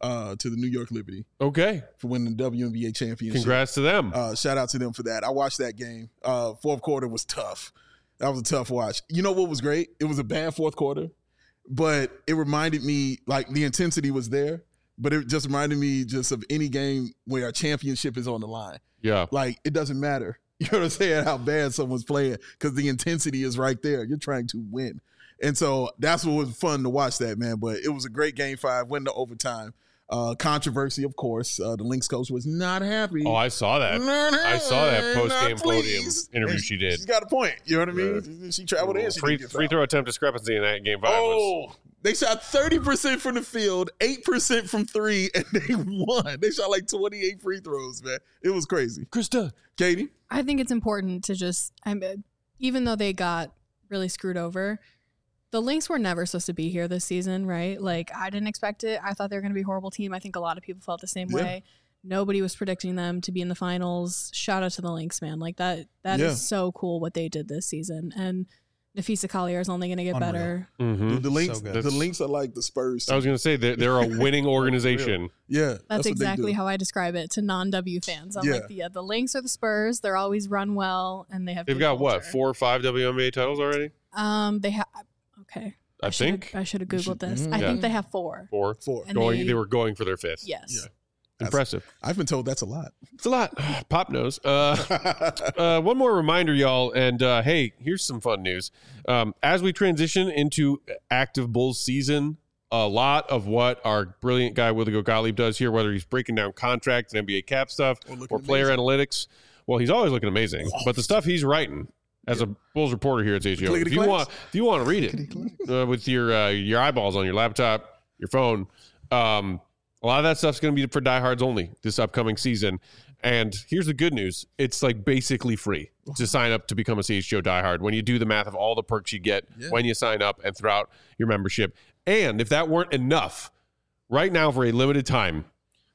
uh, to the New York Liberty Okay. for winning the W N B A championship. Congrats to them. Uh, shout out to them for that. I watched that game. Uh, fourth quarter was tough. That was a tough watch. You know what was great? It was a bad fourth quarter, but it reminded me, like, the intensity was there, but it just reminded me just of any game where a championship is on the line. Yeah. Like, it doesn't matter. You know what I'm saying? How bad someone's playing, because the intensity is right there. You're trying to win. And so that's what was fun to watch that, man. But it was a great game five, win to overtime. Uh, controversy, of course. Uh, the Lynx coach was not happy. Oh, I saw that. Not I saw that happy, post-game not podium pleased. interview And she did. She's got a point. You know what I mean? She traveled in. She Free, didn't get free fouled. throw attempt discrepancy in that game five was. Oh, they shot thirty percent from the field, eight percent from three, and they won. They shot like twenty-eight free throws, man. It was crazy. Krista. Katie? I think it's important to just, I'm, even though they got really screwed over, the Lynx were never supposed to be here this season, right? Like, I didn't expect it. I thought they were going to be a horrible team. I think a lot of people felt the same Yeah. way. Nobody was predicting them to be in the finals. Shout out to the Lynx, man. Like, that that Yeah. is so cool what they did this season. And Nafisa Collier is only going to get Unreal. better. Mm-hmm. The, the Lynx, So good. the That's- Lynx are like the Spurs. I was going to say they're, they're a winning organization. yeah, That's, what they exactly do. how I describe it to non-W fans. I'm Yeah. like, yeah, the Lynx are the Spurs. They're always run well, and they have They've good got what, culture. four or five W N B A titles already? Um, they have. Okay. I should've- think I should have You googled should- this. Mhm. I Yeah. think they have four. four. Four. And Going, they- they were going for their fifth. Yes. Yeah. Impressive. I've been told that's a lot. It's a lot. Pop knows. Uh, uh, one more reminder, y'all. And uh, hey, here's some fun news. Um, as we transition into active Bulls season, a lot of what our brilliant guy Willigo Gottlieb does here, whether he's breaking down contract and N B A cap stuff Or or, looking player amazing. analytics, well, he's always looking amazing. But the stuff he's writing as a Bulls reporter here at H G O, Clickety if you clacks. want, if you want to read it uh, with your uh, your eyeballs on your laptop, your phone. Um, a lot of that stuff's going to be for diehards only this upcoming season. And here's the good news. It's like basically free to sign up to become a C H G O diehard when you do the math of all the perks you get Yeah. when you sign up and throughout your membership. And if that weren't enough, right now for a limited time,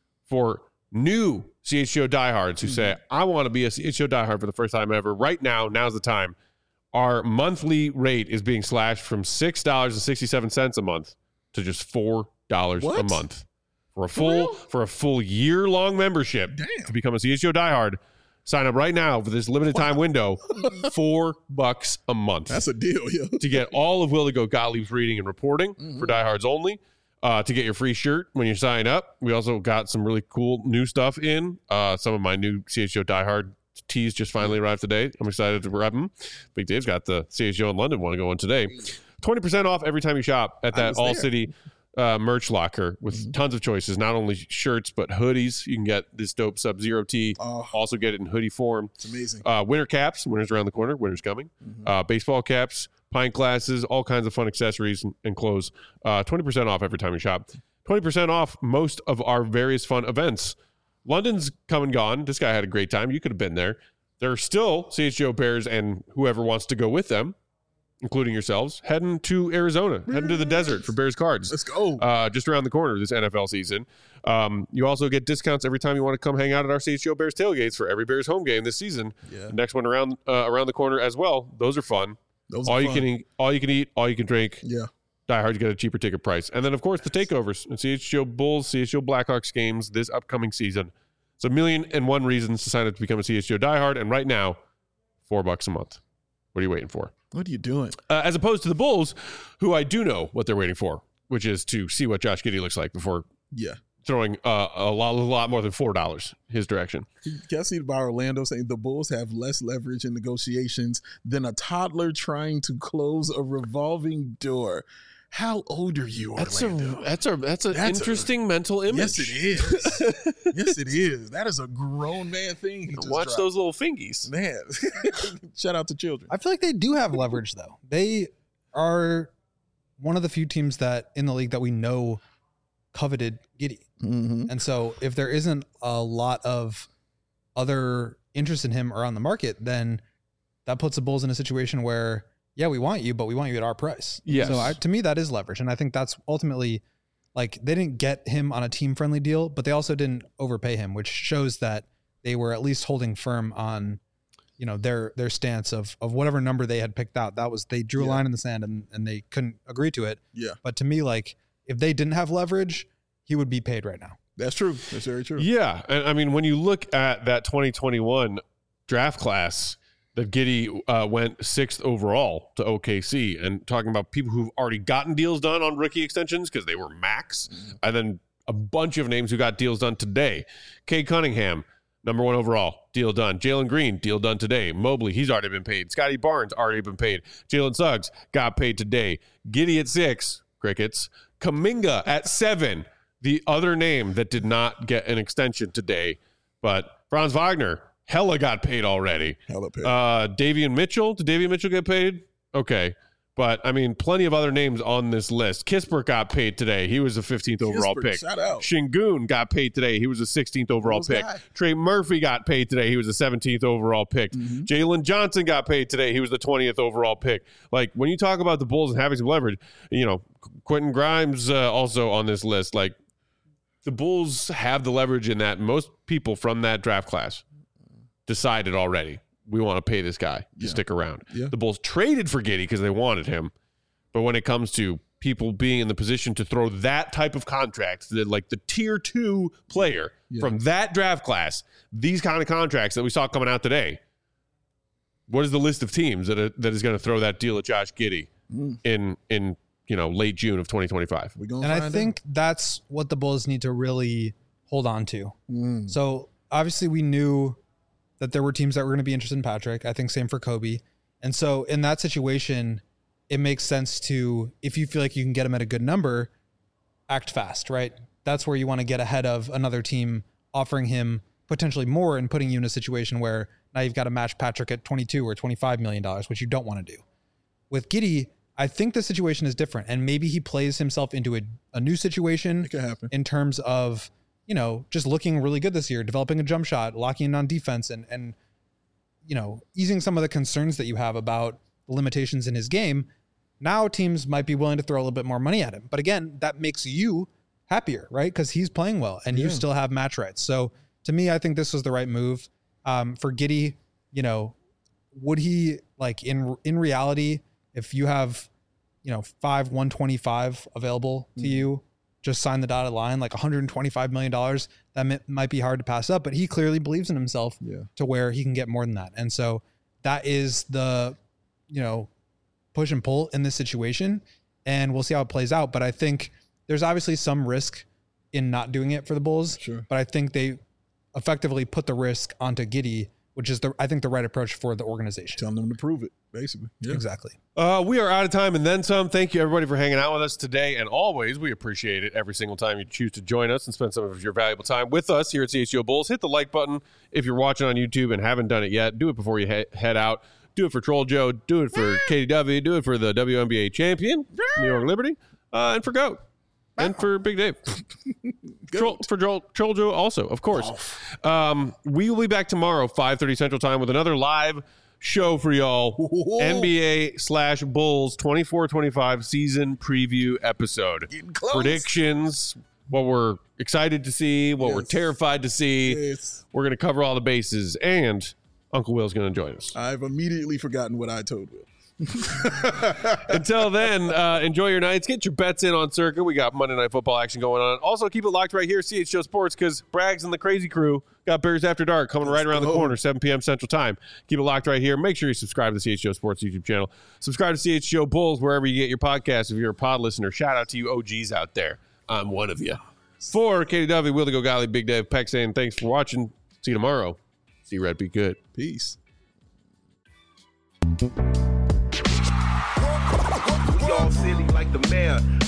for new C H G O diehards who say, I want to be a C H G O diehard for the first time ever, right now, now's the time. Our monthly rate is being slashed from six dollars and sixty-seven cents a month to just four dollars a What? month. For a full real? for a full year long membership Damn. to become a C H G O diehard, sign up right now for this limited time window. Four bucks a month That's a deal, yo. to get all of Willigo Gottlieb's reading and reporting Mm-hmm. for diehards only. Uh, to get your free shirt when you sign up. We also got some really cool new stuff in. Uh, some of my new C H G O diehard tees just finally arrived today. I'm excited to rep them. Big Dave's got the C H G O in London one going today. twenty percent off every time you shop at I that was All there. City uh, merch locker with Mm-hmm. tons of choices, not only shirts, but hoodies. You can get this dope Sub-Zero tee. Oh, Also get it in hoodie form. it's amazing. Uh, winter caps. Winter's around the corner. Winter's coming. Mhm. Uh, baseball caps, pint glasses, all kinds of fun accessories and, and clothes. Uh, twenty percent off every time you shop. twenty percent off most of our various fun events. London's come and gone. This guy had a great time. You could have been there. There are still C H G O Bears and whoever wants to go with them, including yourselves, heading to Arizona, heading to the desert for Bears cards. Let's go. Uh, just around the corner this N F L season. Um, you also get discounts every time you want to come hang out at our C H G O Bears tailgates for every Bears home game this season. yeah. The next one around uh, around the corner as well. Those are fun. Those all are you fun. can eat, all you can eat, all you can drink. Yeah. Die Hard to get a cheaper ticket price, and then of course the takeovers and C H G O Bulls, C H G O Blackhawks games this upcoming season. It's a million and one reasons to sign up to become a C H G O diehard, and right now, four bucks a month. What are you waiting for? What are you doing? Uh, as opposed to the Bulls, who I do know what they're waiting for, which is to see what Josh Giddey looks like before Yeah. throwing uh, a lot, a lot more than four dollars his direction. Can I see by Orlando saying the Bulls have less leverage in negotiations than a toddler trying to close a revolving door? How old are you, That's a Orlando? that's a that's an That's a- interesting mental image. Yes, it is. Yes, it is. That is a grown man thing. He just Watch dropped. those little fingies. Man. Shout out to children. I feel like they do have leverage though. They are one of the few teams that in the league that we know coveted Giddey. Mm-hmm. And so if there isn't a lot of other interest in him around the market, then that puts the Bulls in a situation where, yeah, we want you, but we want you at our price. Yes. So I, to me, that is leverage. And I think that's ultimately like they didn't get him on a team friendly deal, but they also didn't overpay him, which shows that they were at least holding firm on, you know, their, their stance of, of whatever number they had picked out. That was, they drew a Yeah. line in the sand and, and they couldn't agree to it. Yeah. But to me, like if they didn't have leverage, he would be paid right now. That's true. That's very true. Yeah. And I mean, when you look at that twenty twenty-one draft class, that Giddey uh, went sixth overall to O K C, and talking about people who've already gotten deals done on rookie extensions because they were max, mm-hmm. and then a bunch of names who got deals done today. Cade Cunningham, number one overall, deal done. Jalen Green, deal done today. Mobley, he's already been paid. Scotty Barnes, already been paid. Jalen Suggs got paid today. Giddey at six, crickets. Kuminga at seven, the other name that did not get an extension today. But Franz Wagner, hella got paid already. Hella paid. Uh, Davion Mitchell, did Davion Mitchell get paid? Okay. But, I mean, plenty of other names on this list. Kispert got paid today. He was a fifteenth overall Kispert, pick. shout out. Shingun got paid today. He was a sixteenth overall pick. Guy? Trey Murphy got paid today. He was a seventeenth overall pick. Mm-hmm. Jalen Johnson got paid today. He was the twentieth overall pick. Like, when you talk about the Bulls and having some leverage, you know, Quentin Grimes uh, also on this list. Like, the Bulls have the leverage in that most people from that draft class decided already, we want to pay this guy to yeah. stick around. Yeah. The Bulls traded for Giddey because they wanted him. But when it comes to people being in the position to throw that type of contract, that like the tier two player yeah. from that draft class, these kind of contracts that we saw coming out today, what is the list of teams that are, that is going to throw that deal at Josh Giddey mm. in in you know late June of twenty twenty-five? We gonna and I find think out. That's what the Bulls need to really hold on to. Mm. So obviously we knew that there were teams that were going to be interested in Patrick. I think same for Kobe. And so in that situation, it makes sense to, if you feel like you can get him at a good number, act fast, right? That's where you want to get ahead of another team offering him potentially more and putting you in a situation where now you've got to match Patrick at twenty-two or twenty-five million dollars, which you don't want to do. With Giddey, I think the situation is different, and maybe he plays himself into a, a new situation it could happen. In terms of, you know, just looking really good this year, developing a jump shot, locking in on defense, and, and, you know, easing some of the concerns that you have about the limitations in his game. Now teams might be willing to throw a little bit more money at him. But again, that makes you happier, right? Because he's playing well and yeah. you still have match rights. So to me, I think this was the right move. Um, for Giddey, you know, would he, like, in in reality, if you have, you know, five one twenty-five available to mm. you, just sign the dotted line, like one hundred twenty-five million dollars, that m- might be hard to pass up. But he clearly believes in himself yeah. to where he can get more than that. And so that is the, you know, push and pull in this situation, and we'll see how it plays out. But I think there's obviously some risk in not doing it for the Bulls, sure. but I think they effectively put the risk onto Giddey, which is the, I think the right approach for the organization. Telling them to prove it, basically. Yeah. Exactly. Uh, we are out of time and then some. Thank you, everybody, for hanging out with us today. And always, we appreciate it every single time you choose to join us and spend some of your valuable time with us here at C H G O Bulls. Hit the like button if you're watching on YouTube and haven't done it yet. Do it before you he- head out. Do it for Troll Joe. Do it for K D W. Do it for the W N B A champion, New York Liberty, uh, and for Goat, and for Big Dave. Troll, for Troll, Troll Joe also, of course. Um, we will be back tomorrow, five thirty Central Time, with another live show for y'all. Whoa. N B A slash Bulls twenty-four twenty-five season preview episode. Predictions, what we're excited to see, what yes. we're terrified to see. Yes. We're going to cover all the bases, and Uncle Will's going to join us. I've immediately forgotten what I told Will. Until then, uh, enjoy your nights. Get your bets in on Circa. We got Monday Night Football action going on. Also, keep it locked right here, C H G O Sports, because Braggs and the Crazy Crew got Bears After Dark coming right around the corner, seven p.m. Central Time. Keep it locked right here. Make sure you subscribe to the C H G O Sports YouTube channel. Subscribe to C H G O Bulls wherever you get your podcasts. If you're a pod listener, shout out to you O Gs out there. I'm one of you. For K D W, Will the Go Golly, Big Dave, Peck saying thanks for watching. See you tomorrow. See you, Red. Be good. Peace. We all silly like the mayor.